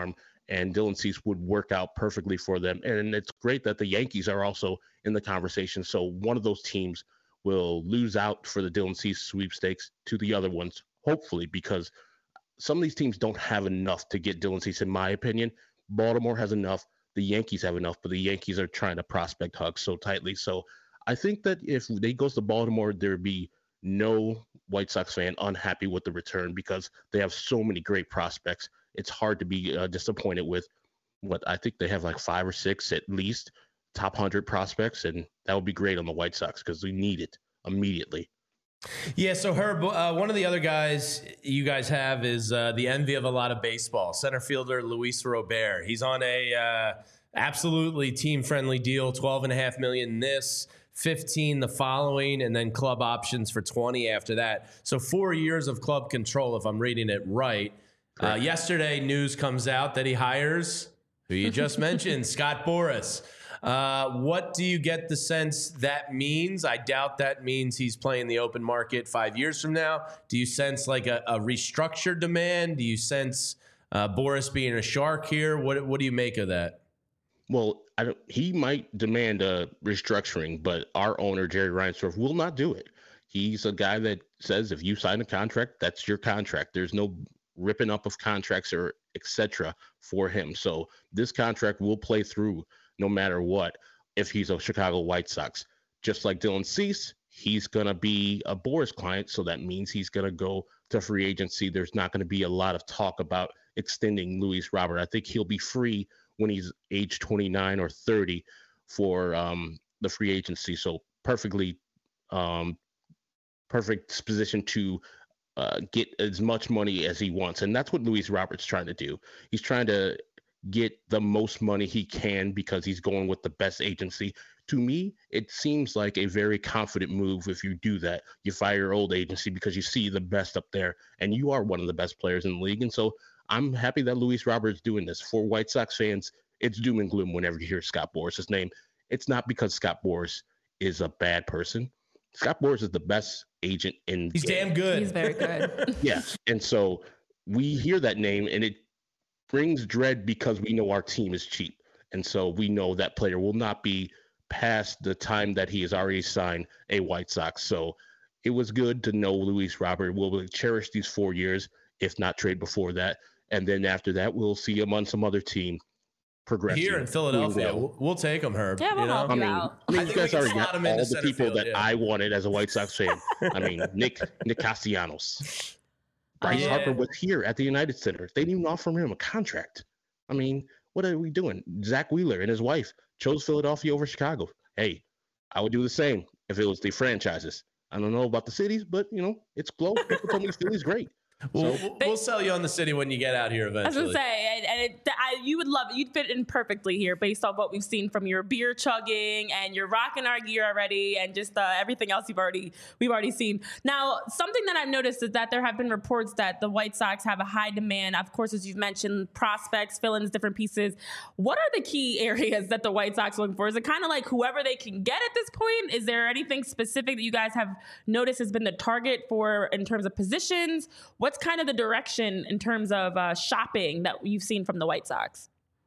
and Dylan Cease would work out perfectly for them. And it's great that the Yankees are also in the conversation. So one of those teams will lose out for the Dylan Cease sweepstakes to the other ones, hopefully, because some of these teams don't have enough to get Dylan Cease, in my opinion. Baltimore has enough. The Yankees have enough, but the Yankees are trying to prospect hug so tightly. So I think that if they goes to Baltimore, there'd be no White Sox fan unhappy with the return because they have so many great prospects. It's hard to be disappointed with what I think they have like 5 or 6 at least top 100 prospects, and that would be great on the White Sox because we need it immediately. Yeah, so Herb, one of the other guys you guys have is the envy of a lot of baseball, center fielder Luis Robert. He's on a absolutely team-friendly deal, $12.5 million this, 15 the following, and then club options for 20 after that. So 4 years of club control, if I'm reading it right. Yesterday, news comes out that he hires, who you just mentioned, Scott Boras. What do you get the sense that means? I doubt that means he's playing the open market 5 years from now. Do you sense like a restructured demand? Do you sense Boras being a shark here? What do you make of that? Well, he might demand a restructuring, but our owner, Jerry Reinsdorf, will not do it. He's a guy that says if you sign a contract, that's your contract. There's no ripping up of contracts or etc. for him. So this contract will play through no matter what if he's a Chicago White Sox. Just like Dylan Cease, he's going to be a Boras client, so that means he's going to go to free agency. There's not going to be a lot of talk about extending Luis Robert. I think he'll be free when he's age 29 or 30 for the free agency. So perfect position to get as much money as he wants. And that's what Luis Robert's trying to do. He's trying to get the most money he can because he's going with the best agency. To me, it seems like a very confident move if you do that. You fire your old agency because you see the best up there, and you are one of the best players in the league. And so I'm happy that Luis Robert's doing this. For White Sox fans, it's doom and gloom whenever you hear Scott Boras' name. It's not because Scott Boras is a bad person. Scott Boras is the best agent in He's damn good. He's very good. Yeah. And so we hear that name and it brings dread because we know our team is cheap. And so we know that player will not be past the time that he has already signed a White Sox. So it was good to know Luis Robert will cherish these 4 years, if not trade before that. And then after that, we'll see him on some other team progressing. Here in Philadelphia, we'll take him, Herb. Yeah, we'll help you out. I mean, you guys already got all the people field, that I wanted as a White Sox fan. I mean, Nick Castellanos. Bryce Harper was here at the United Center. They didn't even offer him a contract. I mean, what are we doing? Zach Wheeler and his wife chose Philadelphia over Chicago. Hey, I would do the same if it was the franchises. I don't know about the cities, but, it's close. People told me Philly's great. We'll sell you on the city when you get out here eventually. I was gonna say, and you would love it. You'd fit in perfectly here based on what we've seen from your beer chugging and you're rocking our gear already, and just everything else we've already seen. Now, something that I've noticed is that there have been reports that the White Sox have a high demand. Of course, as you've mentioned, prospects, fill-ins, different pieces. What are the key areas that the White Sox are looking for? Is it kind of like whoever they can get at this point? Is there anything specific that you guys have noticed has been the target for in terms of positions? What's kind of the direction in terms of shopping that you've seen from the White Sox?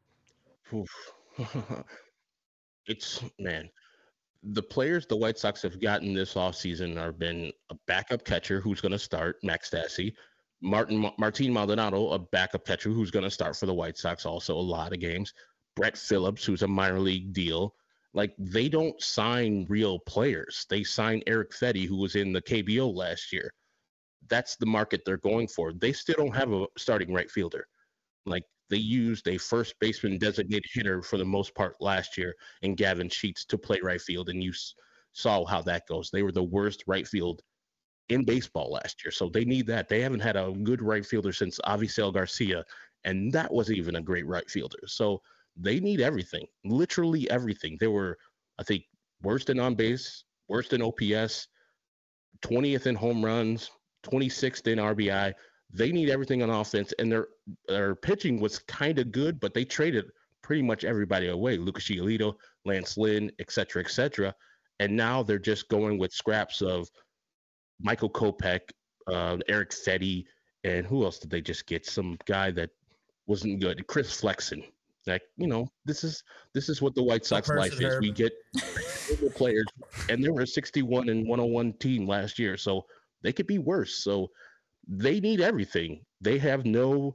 The players the White Sox have gotten this offseason have been a backup catcher who's going to start, Max Stassi, Martin Maldonado, a backup catcher who's going to start for the White Sox also a lot of games, Brett Phillips, who's a minor league deal. Like, they don't sign real players. They sign Eric Fetty, who was in the KBO last year. That's the market they're going for. They still don't have a starting right fielder. Like, they used a first baseman designated hitter for the most part last year in Gavin Sheets to play right field, and you saw how that goes. They were the worst right field in baseball last year, so they need that. They haven't had a good right fielder since Avisail Garcia, and that wasn't even a great right fielder. So they need everything, literally everything. They were, I think, worst in on base, worst in OPS, 20th in home runs, 26th in RBI. They need everything on offense, and their pitching was kind of good, but they traded pretty much everybody away. Lucas Giolito, Lance Lynn, et cetera, and now they're just going with scraps of Michael Kopech, Eric Fetty, and who else did they just get? Some guy that wasn't good. Chris Flexen. Like, this is what the White Sox life is. We get players, and they were a 61 and 101 team last year, so they could be worse. So they need everything. They have they're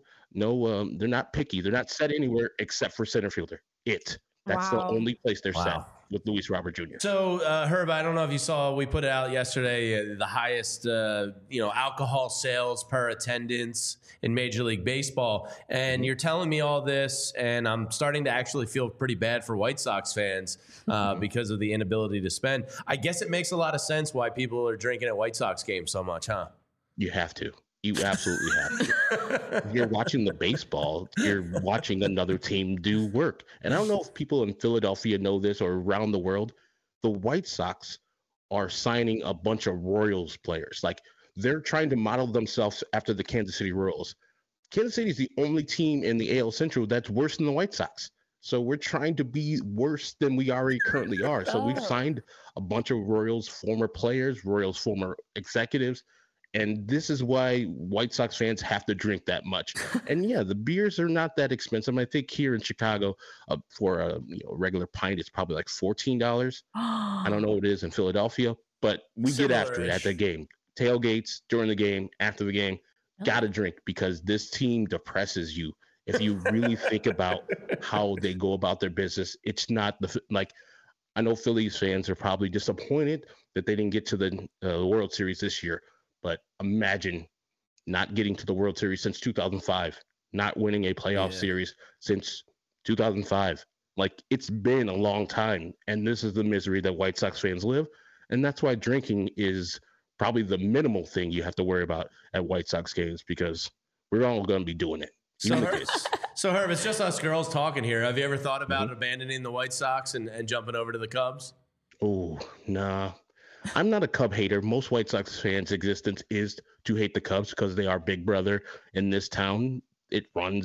not picky. They're not set anywhere except for center fielder. That's the only place they're set with Luis Robert Jr. So, Herb, I don't know if you saw, we put it out yesterday, the highest, alcohol sales per attendance in Major League Baseball. And you're telling me all this, and I'm starting to actually feel pretty bad for White Sox fans because of the inability to spend. I guess it makes a lot of sense why people are drinking at White Sox games so much, huh? You have to. You absolutely have to. If you're watching the baseball, you're watching another team do work. And I don't know if people in Philadelphia know this or around the world. The White Sox are signing a bunch of Royals players. Like, they're trying to model themselves after the Kansas City Royals. Kansas City is the only team in the AL Central that's worse than the White Sox. So we're trying to be worse than we already currently are. So we've signed a bunch of Royals former players, Royals former executives. And this is why White Sox fans have to drink that much. And yeah, the beers are not that expensive. I think here in Chicago, for a regular pint, it's probably like $14. I don't know what it is in Philadelphia, but we get after it at the game. Tailgates, during the game, after the game, gotta drink, because this team depresses you. If you really think about how they go about their business, it's not I know Phillies fans are probably disappointed that they didn't get to the World Series this year. But imagine not getting to the World Series since 2005, not winning a playoff series since 2005. Like, it's been a long time, and this is the misery that White Sox fans live. And that's why drinking is probably the minimal thing you have to worry about at White Sox games, because we're all going to be doing it. So Herb, it's just us girls talking here. Have you ever thought about abandoning the White Sox and jumping over to the Cubs? Oh, nah. I'm not a Cub hater. Most White Sox fans' existence is to hate the Cubs because they are big brother in this town. They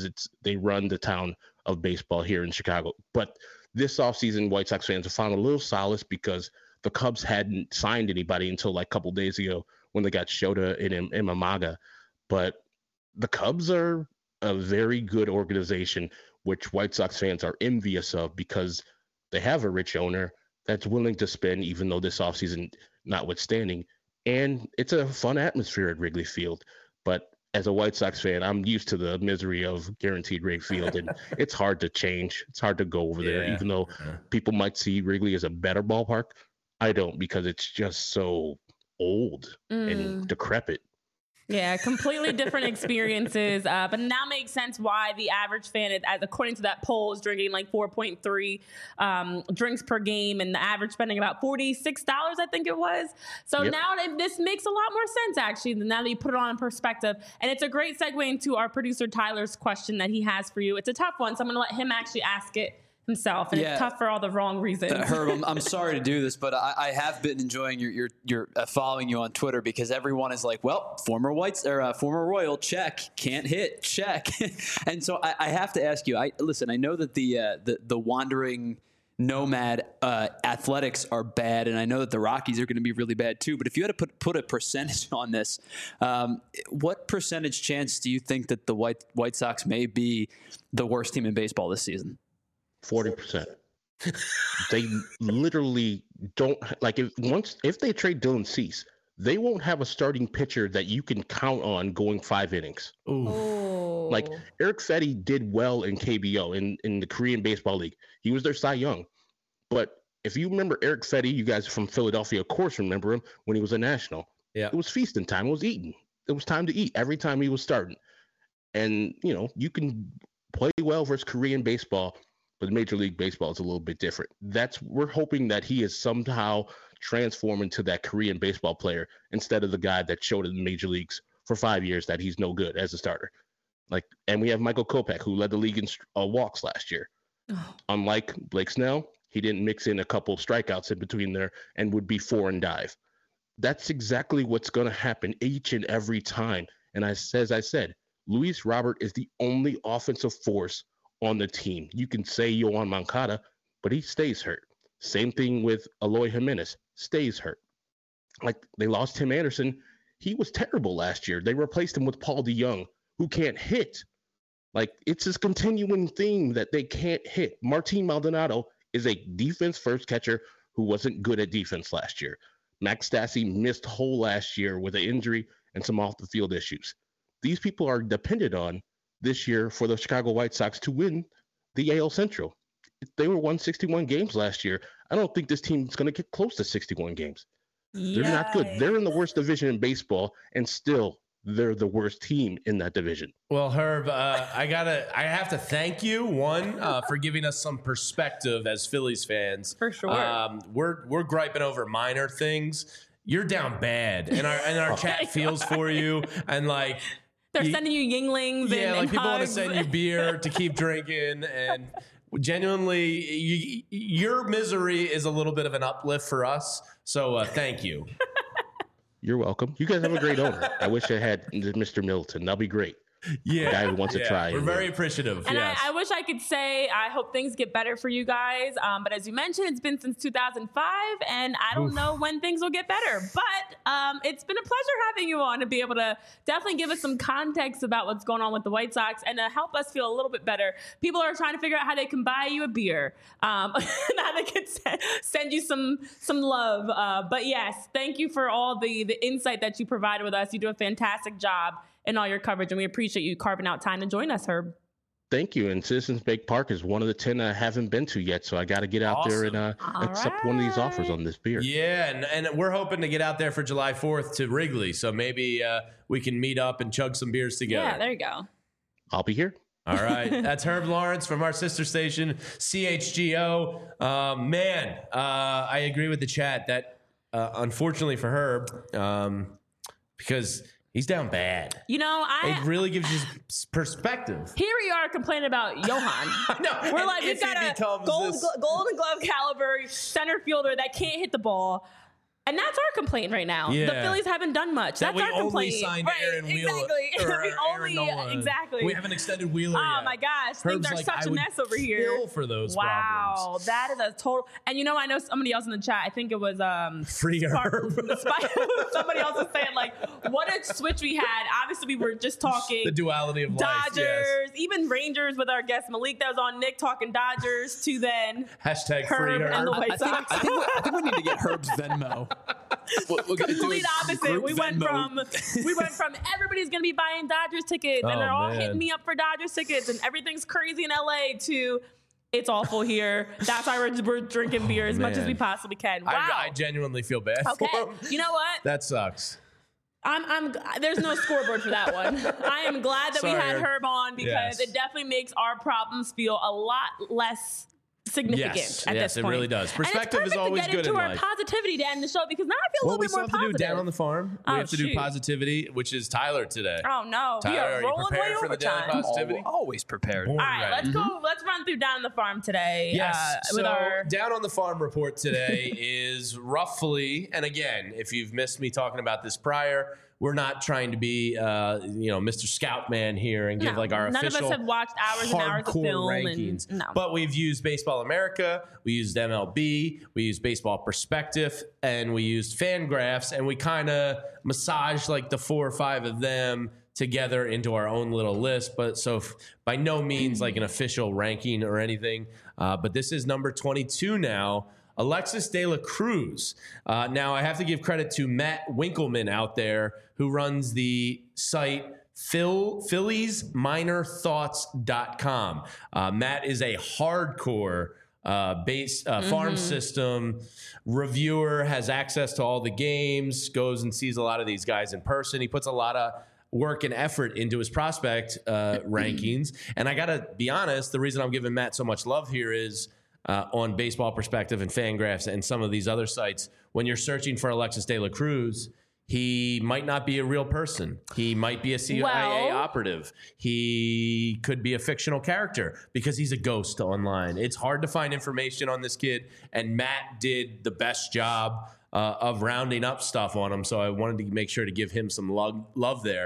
run the town of baseball here in Chicago. But this offseason, White Sox fans have found a little solace because the Cubs hadn't signed anybody until like a couple days ago when they got Shota and Imamaga. But the Cubs are a very good organization, which White Sox fans are envious of because they have a rich owner that's willing to spend, even though this offseason notwithstanding. And it's a fun atmosphere at Wrigley Field. But as a White Sox fan, I'm used to the misery of Guaranteed Rate Field, and it's hard to change. It's hard to go over there, even though people might see Wrigley as a better ballpark. I don't, because it's just so old and decrepit. Yeah, completely different experiences. But now makes sense why the average fan, according to that poll, is drinking like 4.3 drinks per game, and the average spending about $46, I think it was. So now this makes a lot more sense, actually, now that you put it on in perspective. And it's a great segue into our producer Tyler's question that he has for you. It's a tough one, so I'm going to let him actually ask it himself, and it's tough for all the wrong reasons. Herb, I'm sorry to do this, but I have been enjoying your following you on Twitter, because everyone is like, well, former Royal, check, can't hit, check. And so I have to ask you, I know that the wandering nomad Athletics are bad, and I know that the Rockies are going to be really bad too, but if you had to put a percentage on this, what percentage chance do you think that the White Sox may be the worst team in baseball this season? 40%. They literally don't, like, if they trade Dylan Cease, they won't have a starting pitcher that you can count on going 5 innings. Ooh. Like, Eric Fetty did well in KBO, in the Korean Baseball League. He was their Cy Young. But if you remember Eric Fetty, you guys from Philadelphia, of course, remember him when he was a National. Yeah. It was feasting time. It was eating. It was time to eat every time he was starting. And, you can play well versus Korean baseball, but Major League Baseball is a little bit different. We're hoping that he is somehow transformed into that Korean baseball player instead of the guy that showed in the major leagues for 5 years that he's no good as a starter. And we have Michael Kopech, who led the league in walks last year. Oh. Unlike Blake Snell, he didn't mix in a couple strikeouts in between there and would be 4 and dive. That's exactly what's going to happen each and every time. And as I said, Luis Robert is the only offensive force on the team. You can say Yoan Moncada, but he stays hurt. Same thing with Eloy Jimenez, stays hurt. Like, they lost Tim Anderson. He was terrible last year. They replaced him with Paul DeJong, who can't hit. Like, it's this continuing theme that they can't hit. Martin Maldonado is a defense-first catcher who wasn't good at defense last year. Max Stassi missed whole last year with an injury and some off-the-field issues. These people are dependent on this year for the Chicago White Sox to win the AL Central. They were won 61 games last year. I don't think this team is going to get close to 61 games. They're not good. They're in the worst division in baseball, and still they're the worst team in that division. Well, Herb, I have to thank you, for giving us some perspective as Phillies fans. For sure. We're griping over minor things. You're down bad, and our chat feels for you, and like they're sending you Yinglings. Yeah, and like people want to hugs. send you beer to keep drinking, and genuinely, your misery is a little bit of an uplift for us. So thank you. You're welcome. You guys have a great owner. I wish I had Mr. Milton. That'll be great. Yeah, a guy who wants to try. We're very appreciative. And yes. I wish I could say I hope things get better for you guys. But as you mentioned, it's been since 2005, and I don't know when things will get better. But it's been a pleasure having you on to be able to definitely give us some context about what's going on with the White Sox and to help us feel a little bit better. People are trying to figure out how they can buy you a beer, and how they can send you some love. But yes, thank you for all the insight that you provided with us. You do a fantastic job in all your coverage, and we appreciate you carving out time to join us, Herb. Thank you. And Citizens Bank Park is one of the 10 I haven't been to yet, so I got to get out there and accept one of these offers on this beer. Yeah, and we're hoping to get out there for July 4th to Wrigley, so maybe we can meet up and chug some beers together. Yeah, there you go. I'll be here. All right. That's Herb Lawrence from our sister station, CHGO. I agree with the chat that unfortunately for Herb, because he's down bad. You know, it really gives you perspective. Here we are complaining about Johan. I know. We're like, we've got a Golden Glove caliber center fielder that can't hit the ball. And that's our complaint right now. Yeah. The Phillies haven't done much. That's our complaint. We signed Aaron Wheeler. Exactly. Exactly. We haven't extended Wheeler yet. Oh my gosh. Things are such a mess over here. Kill for those problems. That is a total. And you know, I know somebody else in the chat. I think it was Free Herb. Somebody else was saying like, what a switch we had. Obviously, we were just talking the duality of Dodgers, life, yes. Even Rangers with our guest Malik that was on Nick talking Dodgers to then hashtag Herb Free Herb and the White Sox. I think we need to get Herb's Venmo. Complete opposite. We went from everybody's gonna be buying Dodgers tickets and they're all hitting me up for Dodgers tickets and everything's crazy in LA to it's awful here. That's why we're drinking beer as much as we possibly can. Wow. I genuinely feel bad for him. You know what? That sucks. There's no scoreboard for that one. I am glad that we had Herb on because it definitely makes our problems feel a lot less significant at this point. It really does. Perspective is always good in life. Get into our positivity to end the show because now I feel a little bit more positive. We have to do Down on the Farm. We have to do positivity, which is Tyler today. Oh no, Tyler, we are rolling way for the daily overtime. positivity? Always prepared. All right, let's go. Let's run through Down on the Farm today. Yes. So Down on the Farm report today is roughly, and again, if you've missed me talking about this prior, we're not trying to be, Mr. Scoutman here and give like our official none of us have watched hours and hours of film rankings. But we've used Baseball America, we used MLB, we used Baseball Perspective, and we used Fangraphs, and we kind of massaged like the 4 or 5 of them together into our own little list. But so by no means like an official ranking or anything. But this is number 22 now. Alexis De La Cruz. Now, I have to give credit to Matt Winkleman out there who runs the site PhilliesMinorThoughts.com. Matt is a hardcore farm system reviewer, has access to all the games, goes and sees a lot of these guys in person. He puts a lot of work and effort into his prospect rankings. And I got to be honest, the reason I'm giving Matt so much love here is on Baseball Perspective and Fangraphs and some of these other sites, when you're searching for Alexis De La Cruz, he might not be a real person. He might be a CIA operative. He could be a fictional character because he's a ghost online. It's hard to find information on this kid, and Matt did the best job of rounding up stuff on him, so I wanted to make sure to give him some love there.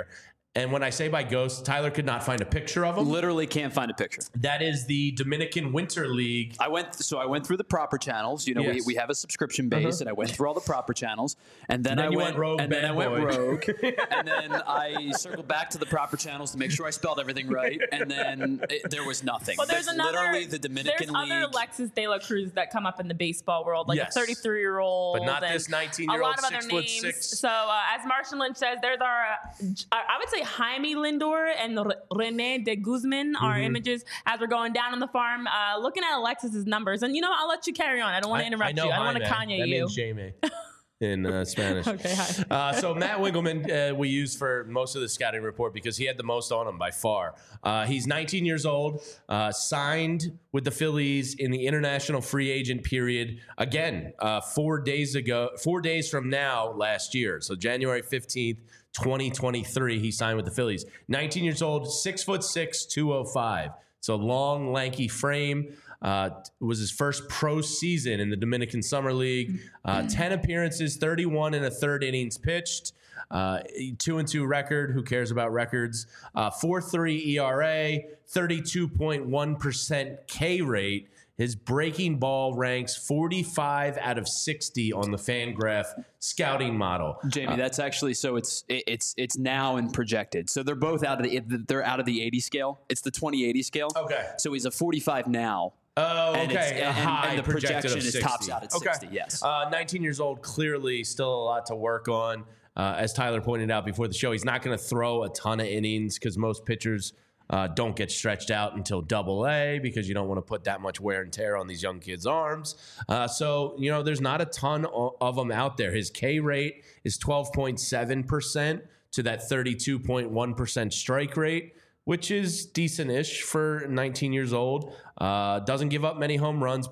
And when I say by ghost, Tyler could not find a picture of him. Literally can't find a picture. That is the Dominican Winter League. I went through the proper channels. You know, Yes. we have a subscription base, and I went through all the proper channels, and then I went rogue. and then I went rogue, and then I circled back to the proper channels to make sure I spelled everything right, and then there was nothing. Well, there's That's another. literally the Dominican there's League. other Alexis De La Cruz that come up in the baseball world, like Yes. a 33-year-old, But not and this 19-year-old, A lot of other 6'6". names. So, as Martian Lynch says, there's our. I would say Jaime Lindor and Rene de Guzman are images as we're going down on the farm, looking at Alexis's numbers. And I'll let you carry on. I don't want to interrupt you. I don't want to Kanye that you. means Jamie in Spanish. Okay, hi. So Matt Winkelman, we used for most of the scouting report because he had the most on him by far. He's 19 years old, signed with the Phillies in the international free agent period. Again, 4 days from now last year. So January 15th, 2023, he signed with the Phillies. 19 years old, 6'6", 205. So long, lanky frame. Was his first pro season in the Dominican Summer League. 10 appearances, 31 and a third innings pitched. 2-2 record. Who cares about records? 4.3 ERA, 32.1% K rate. His breaking ball ranks 45 out of 60 on the FanGraph scouting model. Jamie, that's actually so it's now and projected. So they're both out of the 80 scale. It's the 20/80 scale. Okay. So he's a 45 now. Oh, And okay. and the projected projection of is 60. tops out at 60. Yes. 19 years old, clearly still a lot to work on. As Tyler pointed out before the show, he's not going to throw a ton of innings because most pitchers don't get stretched out until AA because you don't want to put that much wear and tear on these young kids' arms. So, there's not a ton of them out there. His K rate is 12.7% to that 32.1% strike rate, which is decent-ish for 19 years old. Doesn't give up many home runs,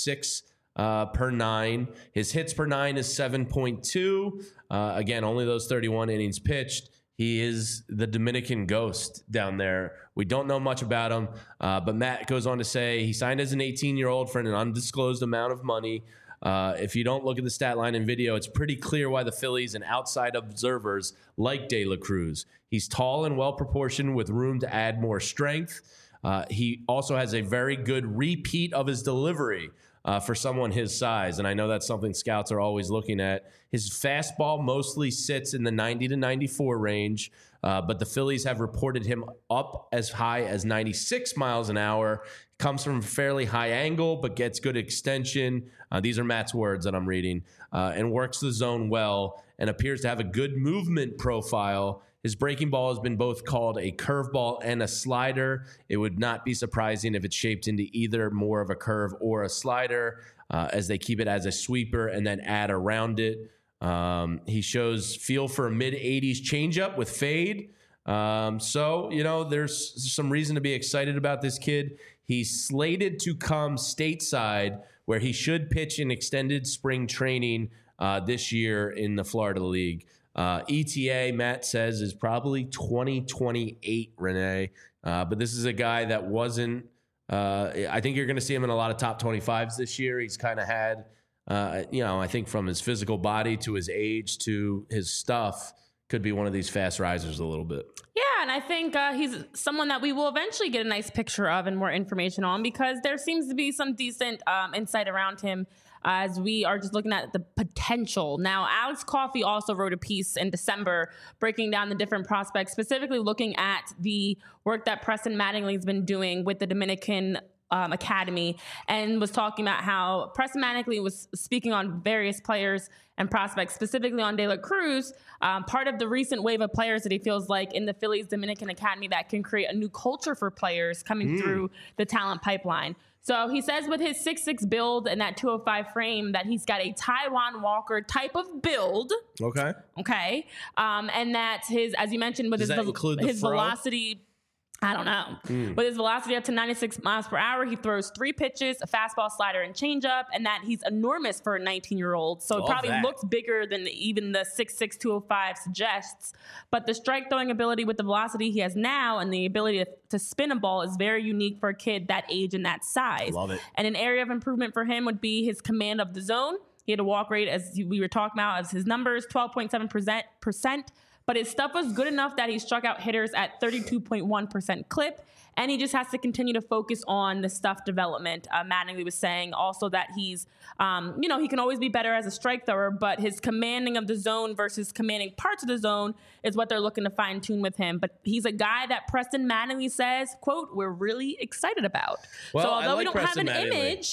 0.6 per 9. His hits per 9 is 7.2. Again, only those 31 innings pitched. He is the Dominican ghost down there. We don't know much about him, but Matt goes on to say he signed as an 18-year-old for an undisclosed amount of money. If you don't look at the stat line and video, it's pretty clear why the Phillies and outside observers like De La Cruz. He's tall and well-proportioned with room to add more strength. He also has a very good repeat of his delivery for someone his size, and I know that's something scouts are always looking at. His fastball mostly sits in the 90 to 94 range, but the Phillies have reported him up as high as 96 miles an hour. Comes from a fairly high angle, but gets good extension. These are Matt's words that I'm reading, and works the zone well and appears to have a good movement profile. His breaking ball has been both called a curveball and a slider. It would not be surprising if it's shaped into either more of a curve or a slider, as they keep it as a sweeper and then add around it. He shows feel for a mid-80s changeup with fade. So, there's some reason to be excited about this kid. He's slated to come stateside, where he should pitch in extended spring training this year in the Florida League. ETA, Matt says, is probably 2028, Renee. But this is a guy that wasn't I think you're going to see him in a lot of top 25s this year. He's kind of had, I think from his physical body to his age to his stuff, could be one of these fast risers a little bit. Yeah, and I think he's someone that we will eventually get a nice picture of and more information on, because there seems to be some decent insight around him as we are just looking at the potential. Now, Alex Coffey also wrote a piece in December breaking down the different prospects, specifically looking at the work that Preston Mattingly's been doing with the Dominican Academy, and was talking about how Preston Mattingly was speaking on various players and prospects, specifically on De La Cruz, part of the recent wave of players that he feels like in the Phillies Dominican Academy that can create a new culture for players coming through the talent pipeline. So he says with his 6'6" build and that 205 frame that he's got a Taijuan Walker type of build. Okay. Okay. And that his, as you mentioned, with Does that include the his fro? velocity, I don't know. With his velocity up to 96 miles per hour, he throws 3 pitches, a fastball, slider, and changeup, and that he's enormous for a 19-year-old. So it Love probably that. looks bigger than even the 6'6", 205 suggests. But the strike throwing ability with the velocity he has now and the ability to spin a ball is very unique for a kid that age and that size. Love it. And an area of improvement for him would be his command of the zone. He had a walk rate, as we were talking about, as his numbers, 12.7%. but his stuff was good enough that he struck out hitters at 32.1% clip. And he just has to continue to focus on the stuff development. Mattingly was saying also that he's, he can always be better as a strike thrower, but his commanding of the zone versus commanding parts of the zone is what they're looking to fine tune with him. But he's a guy that Preston Mattingly says, quote, we're really excited about. Well, so although like we don't Preston have an image,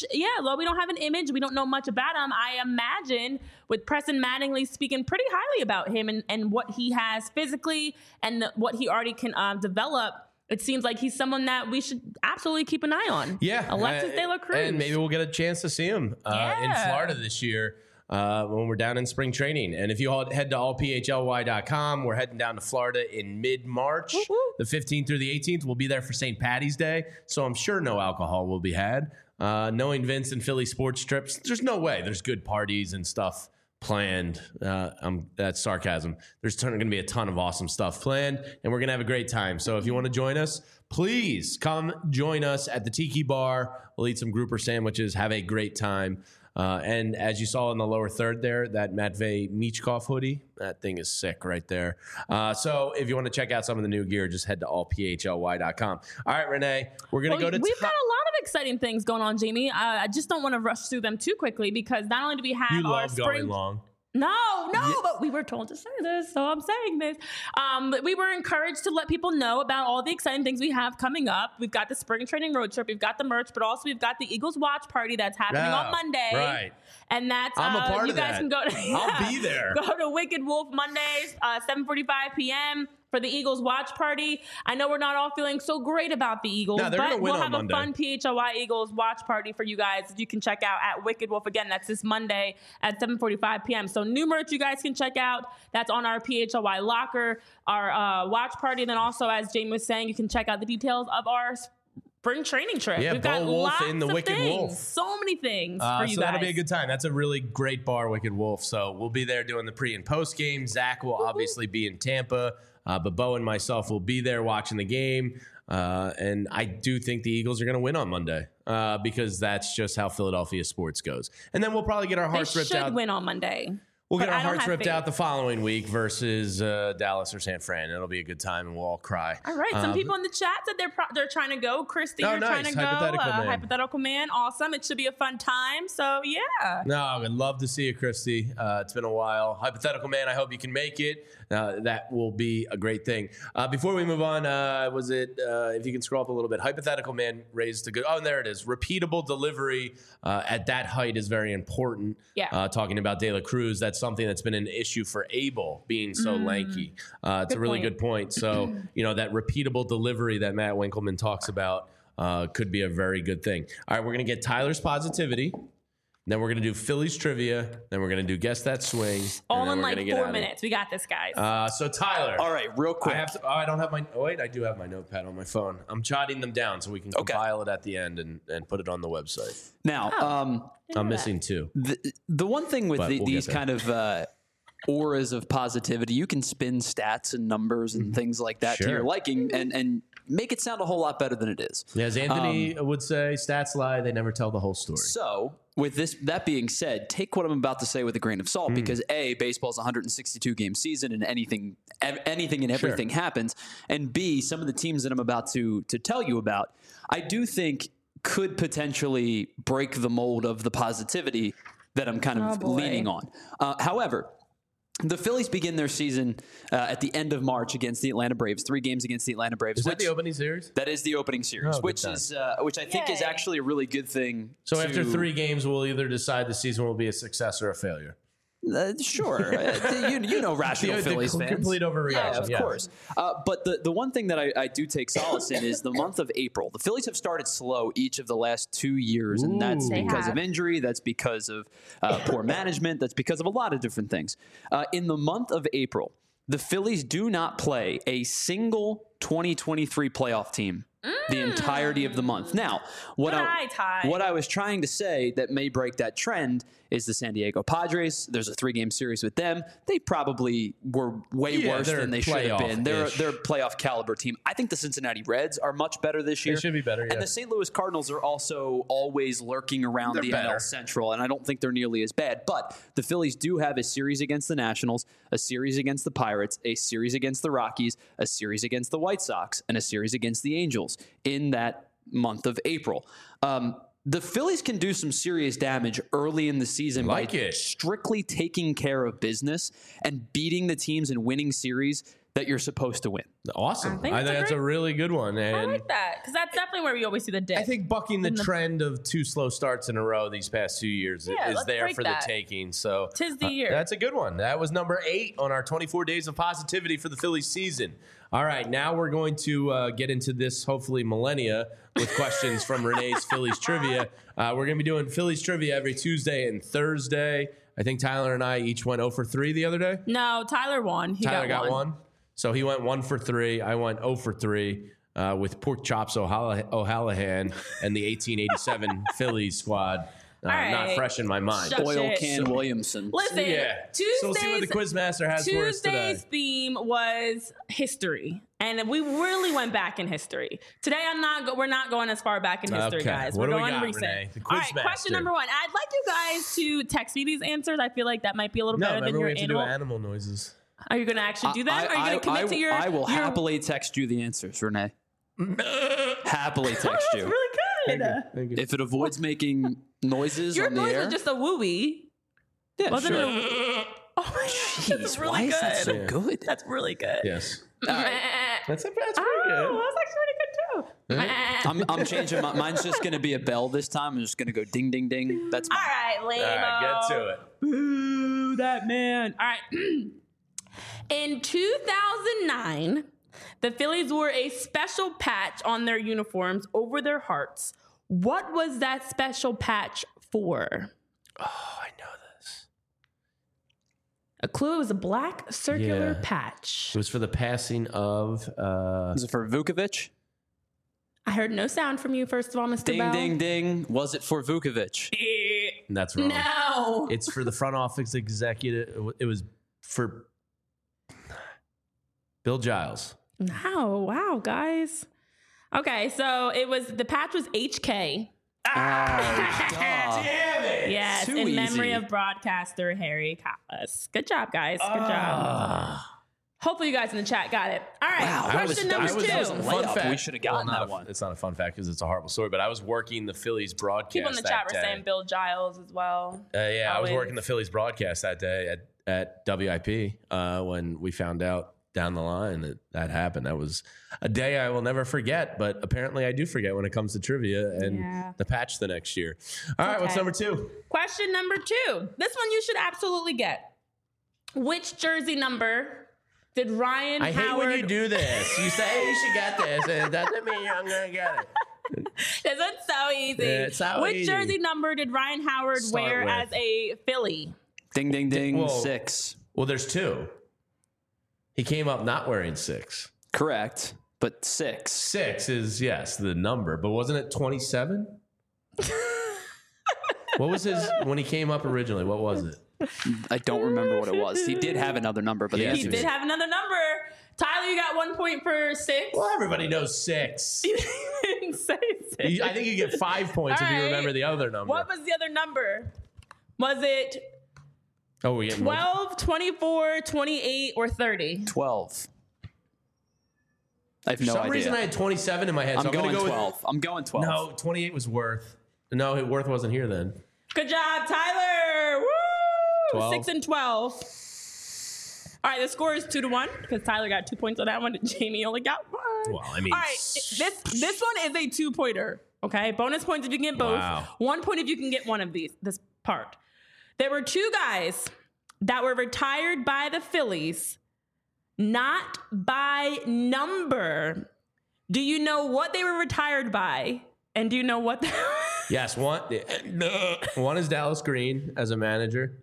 we don't know much about him. I imagine with Preston Mattingly speaking pretty highly about him and what he has physically and what he already can develop, it seems like he's someone that we should absolutely keep an eye on. Yeah. Alexis De La Cruz. And maybe we'll get a chance to see him in Florida this year when we're down in spring training. And if you all head to allphly.com, we're heading down to Florida in mid-March. The 15th through the 18th. We'll be there for St. Patty's Day. So I'm sure no alcohol will be had. Knowing Vince and Philly sports trips, there's no way there's good parties and stuff planned. That's sarcasm. There's going to be a ton of awesome stuff planned, and we're going to have a great time. So if you want to join us, please come join us at the Tiki Bar. We'll eat some grouper sandwiches, have a great time. And as you saw in the lower third there, that Matvey Michkov hoodie, that thing is sick right there. So if you want to check out some of the new gear, just head to allphly.com. All right, Renee, we're going to go to... We've got a lot of exciting things going on, Jamie. I just don't want to rush through them too quickly because not only do we have our spring... going long. No, but we were told to say this, so I'm saying this. But we were encouraged to let people know about all the exciting things we have coming up. We've got the spring training road trip, we've got the merch, but also weve got the Eagles watch party that's happening on Monday. Right. And that's I'm a part you of guys that. can go to I'll be there. Go to Wicked Wolf Mondays, 7:45 p.m. for the Eagles watch party. I know we're not all feeling so great about the Eagles, No, they're gonna but win we'll on have Monday. a fun PHLY Eagles watch party for you guys. You can check out at Wicked Wolf. Again, that's this Monday at 7:45 p.m. So new merch you guys can check out. That's on our PHLY locker, our watch party. And then also, as Jamie was saying, you can check out the details of our spring training trip. Yeah, We've got Bo Wolf lots in the of Wicked things. Wolf. So many things for you so guys. that'll be a good time. That's a really great bar, Wicked Wolf. So we'll be there doing the pre and post game. Zach will obviously be in Tampa, but Bo and myself will be there watching the game. And I do think the Eagles are going to win on Monday because that's just how Philadelphia sports goes. And then we'll probably get our hearts ripped out. They should win on Monday. We'll get But our I don't hearts have ripped faith. out the following week versus Dallas or San Fran. It'll be a good time, and we'll all cry. All right. Some people in the chat said they're trying to go. Christy, Oh, you're nice. trying to go. Hypothetical man. Hypothetical man. Awesome. It should be a fun time. So, yeah. No, I'd love to see you, Christy. It's been a while. Hypothetical man, I hope you can make it. That will be a great thing. Before we move on, if you can scroll up a little bit, Hypothetical man raised a good... Oh, there it is. Repeatable delivery at that height is very important. Yeah. Talking about De La Cruz, that's something that's been an issue for Abel being so lanky. It's a really good point. So, that repeatable delivery that Matt Winkleman talks about could be a very good thing. All right, we're going to get Tyler's positivity. Then we're going to do Phillies trivia. Then we're going to do Guess That Swing. All in like 4 minutes. We got this, guys. So, Tyler. All right, real quick. I don't have my... Oh, wait, I do have my notepad on my phone. I'm jotting them down so we can compile it at the end and put it on the website. Now, I'm missing two. the one thing with But we'll these get there. kind of auras of positivity, you can spin stats and numbers and things like that to Sure. your liking and make it sound a whole lot better than it is. Yeah, as Anthony would say, stats lie. They never tell the whole story. So, with that being said, take what I'm about to say with a grain of salt because A, baseball's a 162 game season and anything and everything happens, and B, some of the teams that I'm about to tell you about, I do think could potentially break the mold of the positivity that I'm kind of leaning on. However, the Phillies begin their season at the end of March against the Atlanta Braves. 3 games against the Atlanta Braves. Is that the opening series? That is the opening series, Oh, which good is which I think is Yay. actually a really good thing. So after 3 games, we'll either decide the season will be a success or a failure. Sure, you know rational Phillies fans. Complete overreaction. Yeah, of course. But the one thing that I do take solace in is the month of April. The Phillies have started slow each of the last 2 years, and that's They because have. of injury. That's because of poor management. That's because of a lot of different things. In the month of April, the Phillies do not play a single 2023 playoff team the entirety of the month. Now, what I was trying to say that may break that trend is the San Diego Padres. There's a 3-game series with them. They probably were way worse than they should have been. They're a playoff caliber team. I think the Cincinnati Reds are much better this year. They should be better, yeah. And the St. Louis Cardinals are also always lurking around the NL Central, and I don't think they're nearly as bad. But the Phillies do have a series against the Nationals, a series against the Pirates, a series against the Rockies, a series against the White Sox, and a series against the Angels in that month of April. The Phillies can do some serious damage early in the season by strictly taking care of business and beating the teams and winning series that you're supposed to win. Awesome. I think that's a really good one. And I like that because that's definitely where we always see the dip. I think bucking the trend of 2 slow starts in a row these past 2 years is there for the taking. So 'tis the year. That's a good one. That was number 8 on our 24 days of positivity for the Phillies season. All right, now we're going to get into this hopefully millennia with questions from Renee's Phillies trivia. We're going to be doing Phillies trivia every Tuesday and Thursday. I think Tyler and I each went 0 for 3 the other day. No, Tyler won. Tyler got one. So he went 1 for 3. I went 0 for 3 with Pork Chops O'Hallahan and the 1887 Phillies squad. Not fresh in my mind. Oil Can Williamson. Listen, Tuesdays, so we'll see what the Quizmaster has for us today. Tuesday's theme was history, and we really went back in history. Today, we're not going as far back in history, guys. We're going recent. Renee? The All right, question number 1. I'd like you guys to text me these answers. I feel like that might be a little better than your we have to do animal noises. Are you going to actually do that? Are you going to commit to your? I will happily text you the answers, Renee. Happily text you. That's really good. Thank you. If it avoids making noises on the air. Your noise was just a wooey. Yeah, Wasn't sure. it? Oh my Jeez, that's really why good. is that so good? That's really good. Yes. That's pretty good. That's actually pretty good too. I'm changing. Mine's just going to be a bell this time. I'm just going to go ding, ding, ding. That's mine. All right, lame. All right, get to it. Boo, that man. All right. In 2009, the Phillies wore a special patch on their uniforms over their hearts. What was that special patch for? Oh, I know this. A clue, it was a black circular patch. It was for the passing of... Was it for Vukovic? I heard no sound from you, first of all, Mr. Ding, Bell. ding, ding. Was it for Vukovic? That's wrong. No. It's for the front office executive. It was for Bill Giles. No. Wow, guys. Okay, so the patch was HK. Damn it! Yes, Too in easy. memory of broadcaster Harry Kalas. Good job, guys. Good job. Hopefully you guys in the chat got it. All right, Wow, question number 2. fun fact. We should have gotten that one. It's not a fun fact because it's a horrible story, but I was working the Phillies broadcast People in the chat were that day. saying Bill Giles as well. Yeah, I was Always. working the Phillies broadcast that day at WIP when we found out down the line that happened. That was a day I will never forget, but apparently I do forget when it comes to trivia and the patch the next year. All right, what's number 2? Question number 2. This one you should absolutely get. Which jersey number did Ryan I Howard... hate when you do this. You say you should get this, and it doesn't mean I'm going to get it. This one's so easy. It's so Which easy. jersey number did Ryan Howard wear with. as a Philly? Ding, ding, ding. Whoa. 6. Well, there's 2. He came up not wearing 6. Correct, but 6. 6 is, yes, the number, but wasn't it 27? What was his, when he came up originally, what was it? I don't remember what it was. He did have another number, but Yeah, the He answer did is have another number. Tyler, you got 1 point for 6. Well, everybody knows 6. You didn't say 6. I think you get 5 points if you All right. remember the other number. What was the other number? Was it Oh, we get 12, 24, 28, or 30? 12. I have For no some idea. reason, I had 27 in my head. I'm so going gonna go 12. I'm going 12. No, 28 was Worth. No, Worth wasn't here then. Good job, Tyler. Woo! 12. 6 and 12. All right, the score is 2-1 because Tyler got 2 points on that one and Jamie only got 1. Well, I mean, all right, this one is a 2-pointer. Okay, bonus points if you can get both. Wow. 1 point if you can get one of this part. There were 2 guys that were retired by the Phillies, not by number. Do you know what they were retired by? And do you know what? yes, one is Dallas Green as a manager.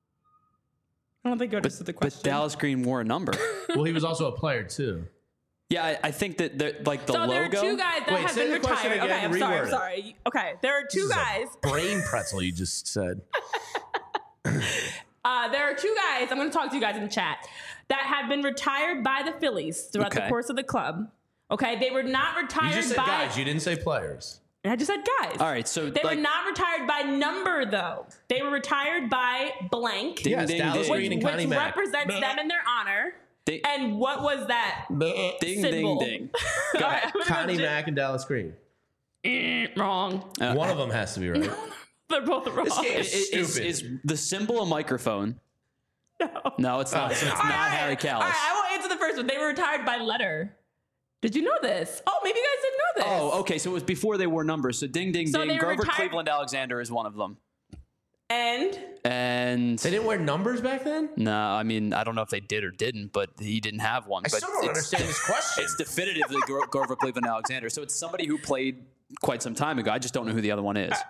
I don't think you understood the question. But Dallas Green wore a number. Well, he was also a player too. Yeah, I think that the logo. There are two guys that have been retired. Again, okay, I'm sorry. Okay, there are two guys. Brain pretzel, you just said. There are two guys. I'm going to talk to you guys in the chat that have been retired by the Phillies throughout the course of the club. Okay, they were not retired. You just said guys. You didn't say players. I just said guys. All right, so they were not retired by number though. They were retired by blank. Yes, Dallas Green and Connie Mack. Represents them in their honor. And what was that? Ding, symbol? ding, ding. Go ahead. Connie Mack and Dallas Green. Wrong. One of them has to be right. They're both wrong. This game is stupid. Is the symbol a microphone? No, it's not. It's not Harry Kalas. All right, I won't answer the first one. They were retired by letter. Did you know this? Oh, maybe you guys didn't know this. Oh, okay. So it was before they wore numbers. So ding, ding, ding. Grover Cleveland Alexander is one of them. And they didn't wear numbers back then? No, I mean, I don't know if they did or didn't, but he didn't have one. I still don't understand this question. It's definitively Grover Cleveland Alexander. So it's somebody who played quite some time ago. I just don't know who the other one is.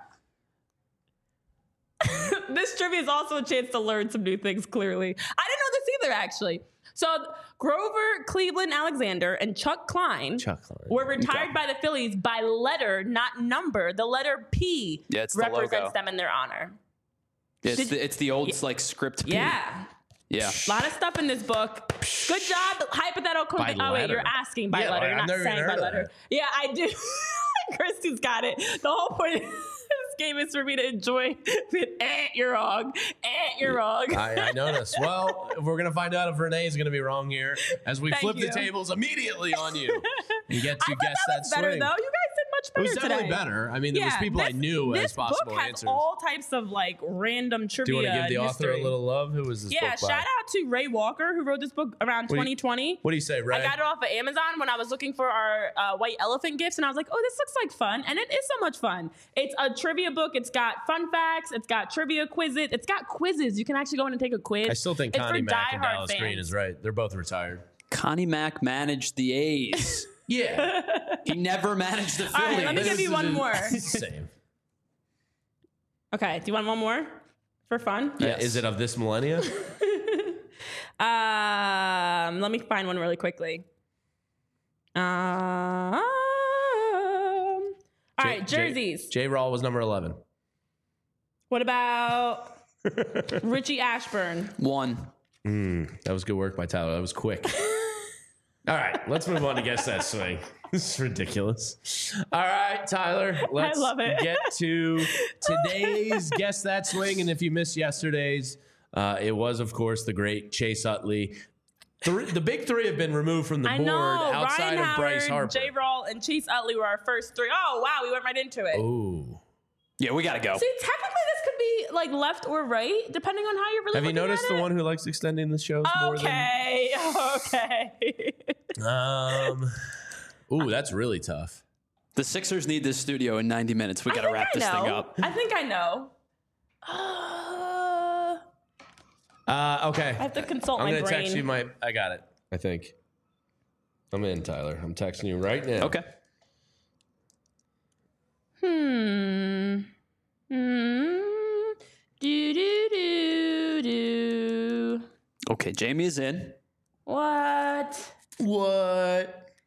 This trivia is also a chance to learn some new things, clearly. I didn't know this either, actually. So Grover Cleveland Alexander and Chuck Klein were retired by the Phillies by letter, not number. The letter P represents them in their honor. It's the old script P. Yeah. Yeah. A lot of stuff in this book. Good job. Hypothetical. Oh, wait, you're asking by letter. You're not saying by letter. Yeah, I do. Christy's got it. The whole point of this game is for me to enjoy it. You're wrong. You're wrong. I noticed. Well, we're going to find out if Renee is going to be wrong here as we flip the tables immediately on you. You get to guess that swing. Better, though. You guys did much better. It was definitely better. I mean, there was people I knew as possible answers. This book has all types of random trivia. Do you want to give the author a little love? Who was this book by? Shout out to Ray Walker, who wrote this book around 2020. What do you say, Ray? I got it off of Amazon when I was looking for our white elephant gifts, and I was like, oh, this looks like fun. And it is so much fun. It's a trivia book. It's got fun facts. It's got trivia quizzes. It's got quizzes. You can actually go in and take a quiz. I still think Connie Mack and Dallas Green is right. They're both retired. Connie Mack managed the A's. Yeah. He never managed the Phillies. All right, let me give you one more. Same. Okay, do you want one more for fun? Yes. Is it of this millennia? Let me find one really quickly. All right, jerseys. J-Rawl was number 11. What about Richie Ashburn? 1. That was good work by Tyler. That was quick. All right, let's move on to Guess That Swing. This is ridiculous. All right, Tyler, let's get to today's Guess That Swing. And if you missed yesterday's, it was, of course, the great Chase Utley. The big three have been removed from the board outside Ryan of Bryce Harper. J-Rawl, and Chase Utley were our first three. Oh, wow, we went right into it. Ooh. Yeah, we got to go. See, technically this could be left or right, depending on how you're really Have you noticed the one who likes extending the shows more than... Okay. Ooh, that's really tough. The Sixers need this studio in 90 minutes. We got to wrap this thing up. I think I know. Okay. I have to consult my brain. I'm going to text you I got it, I think. I'm in, Tyler. I'm texting you right now. Okay. Okay, Jamie is in. What? Oh,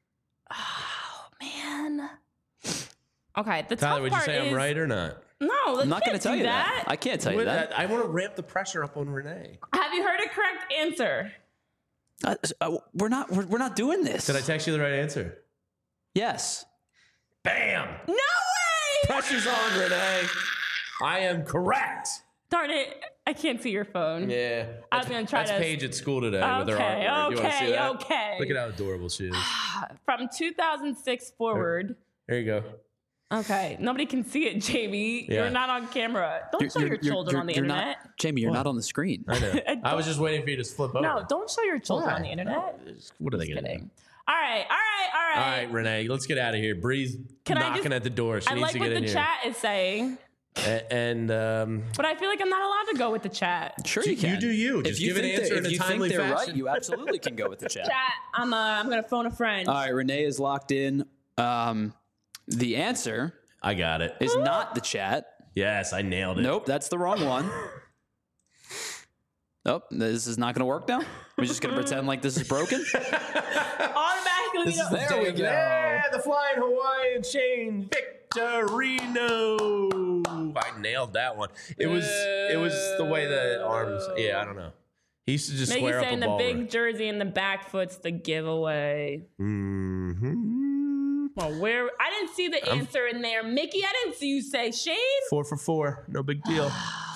man. Okay, the Tyler, tough would part you say is, I'm right or not? No, I'm not going to tell you that. I can't tell you that. I want to ramp the pressure up on Renee. Have you heard a correct answer? We're not doing this. Did I text you the right answer? Yes. Bam! No way! Pressure's on, Renee. I am correct. Darn it. I can't see your phone. Yeah. I was going to try to... That's Paige at school today with her artwork. You want to see that? Okay. Look at how adorable she is. From 2006 forward. There you go. Okay. Nobody can see it, Jamie. Yeah. You're not on camera. Don't show your children on the internet. Jamie, you're not on the screen. I know. I was just waiting for you to flip over. No, don't show your children on the internet. What are they going to do? All right. All right, Renee, let's get out of here. Bree's knocking at the door. She needs to get in here. I like what the chat is saying. But I feel like I'm not allowed to go with the chat. Sure you can. You do you. Just give an answer in a timely fashion. If you think they're right, you absolutely can go with the chat. Chat, I'm going to phone a friend. All right, Renee is locked in. The answer... I got it. Is not the chat. Yes, I nailed it. Nope, that's the wrong one. Nope, this is not going to work now. We're just going to pretend like this is broken. Automatic exactly. This is the There we go. Yeah, the Flying Hawaiian Chain Victorino. I nailed that one. It was the way the arms. Yeah, I don't know. He used to just Mickey square up saying a the ball. big jersey in the back foot's the giveaway. Mm-hmm. Well, where I didn't see the answer in there, Mickey. I didn't see you say Shane. 4 for 4. No big deal.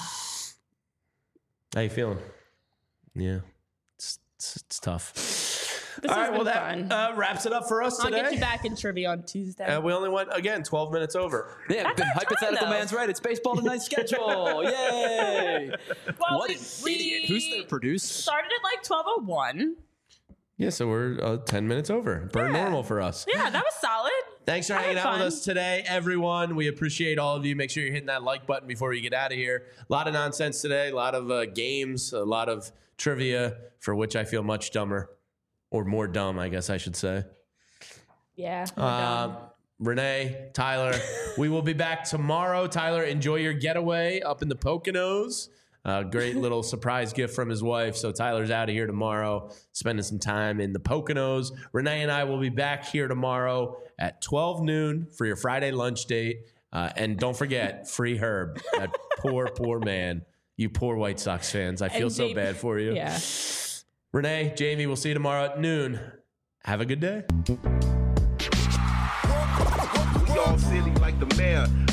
How you feeling? Yeah, it's tough. This All has right, well, been that fun. wraps it up for us I'll today. get you back in trivia on Tuesday. We only went, again, 12 minutes over. Yeah, That's the our time, hypothetical though. man's right. It's baseball tonight schedule. Yay! Well, What an idiot. Who's their producer? Started at like 12:01. Yeah, so we're 10 minutes over. Per normal for us. Yeah, that was solid. Thanks for I had hanging out with fun. us today, everyone. We appreciate all of you. Make sure you're hitting that like button before you get out of here. A lot of nonsense today, a lot of games, a lot of trivia, for which I feel much dumber, or more dumb, I guess I should say. Yeah. Renee, Tyler, we will be back tomorrow. Tyler, enjoy your getaway up in the Poconos. Great little surprise gift from his wife. So Tyler's out of here tomorrow, spending some time in the Poconos. Renee and I will be back here tomorrow at 12 noon for your Friday lunch date. And don't forget, free Herb, that poor man. You poor White Sox fans. I feel And so Jamie- bad for you. Yeah. Renee, Jamie, we'll see you tomorrow at noon. Have a good day. We all silly like the mayor.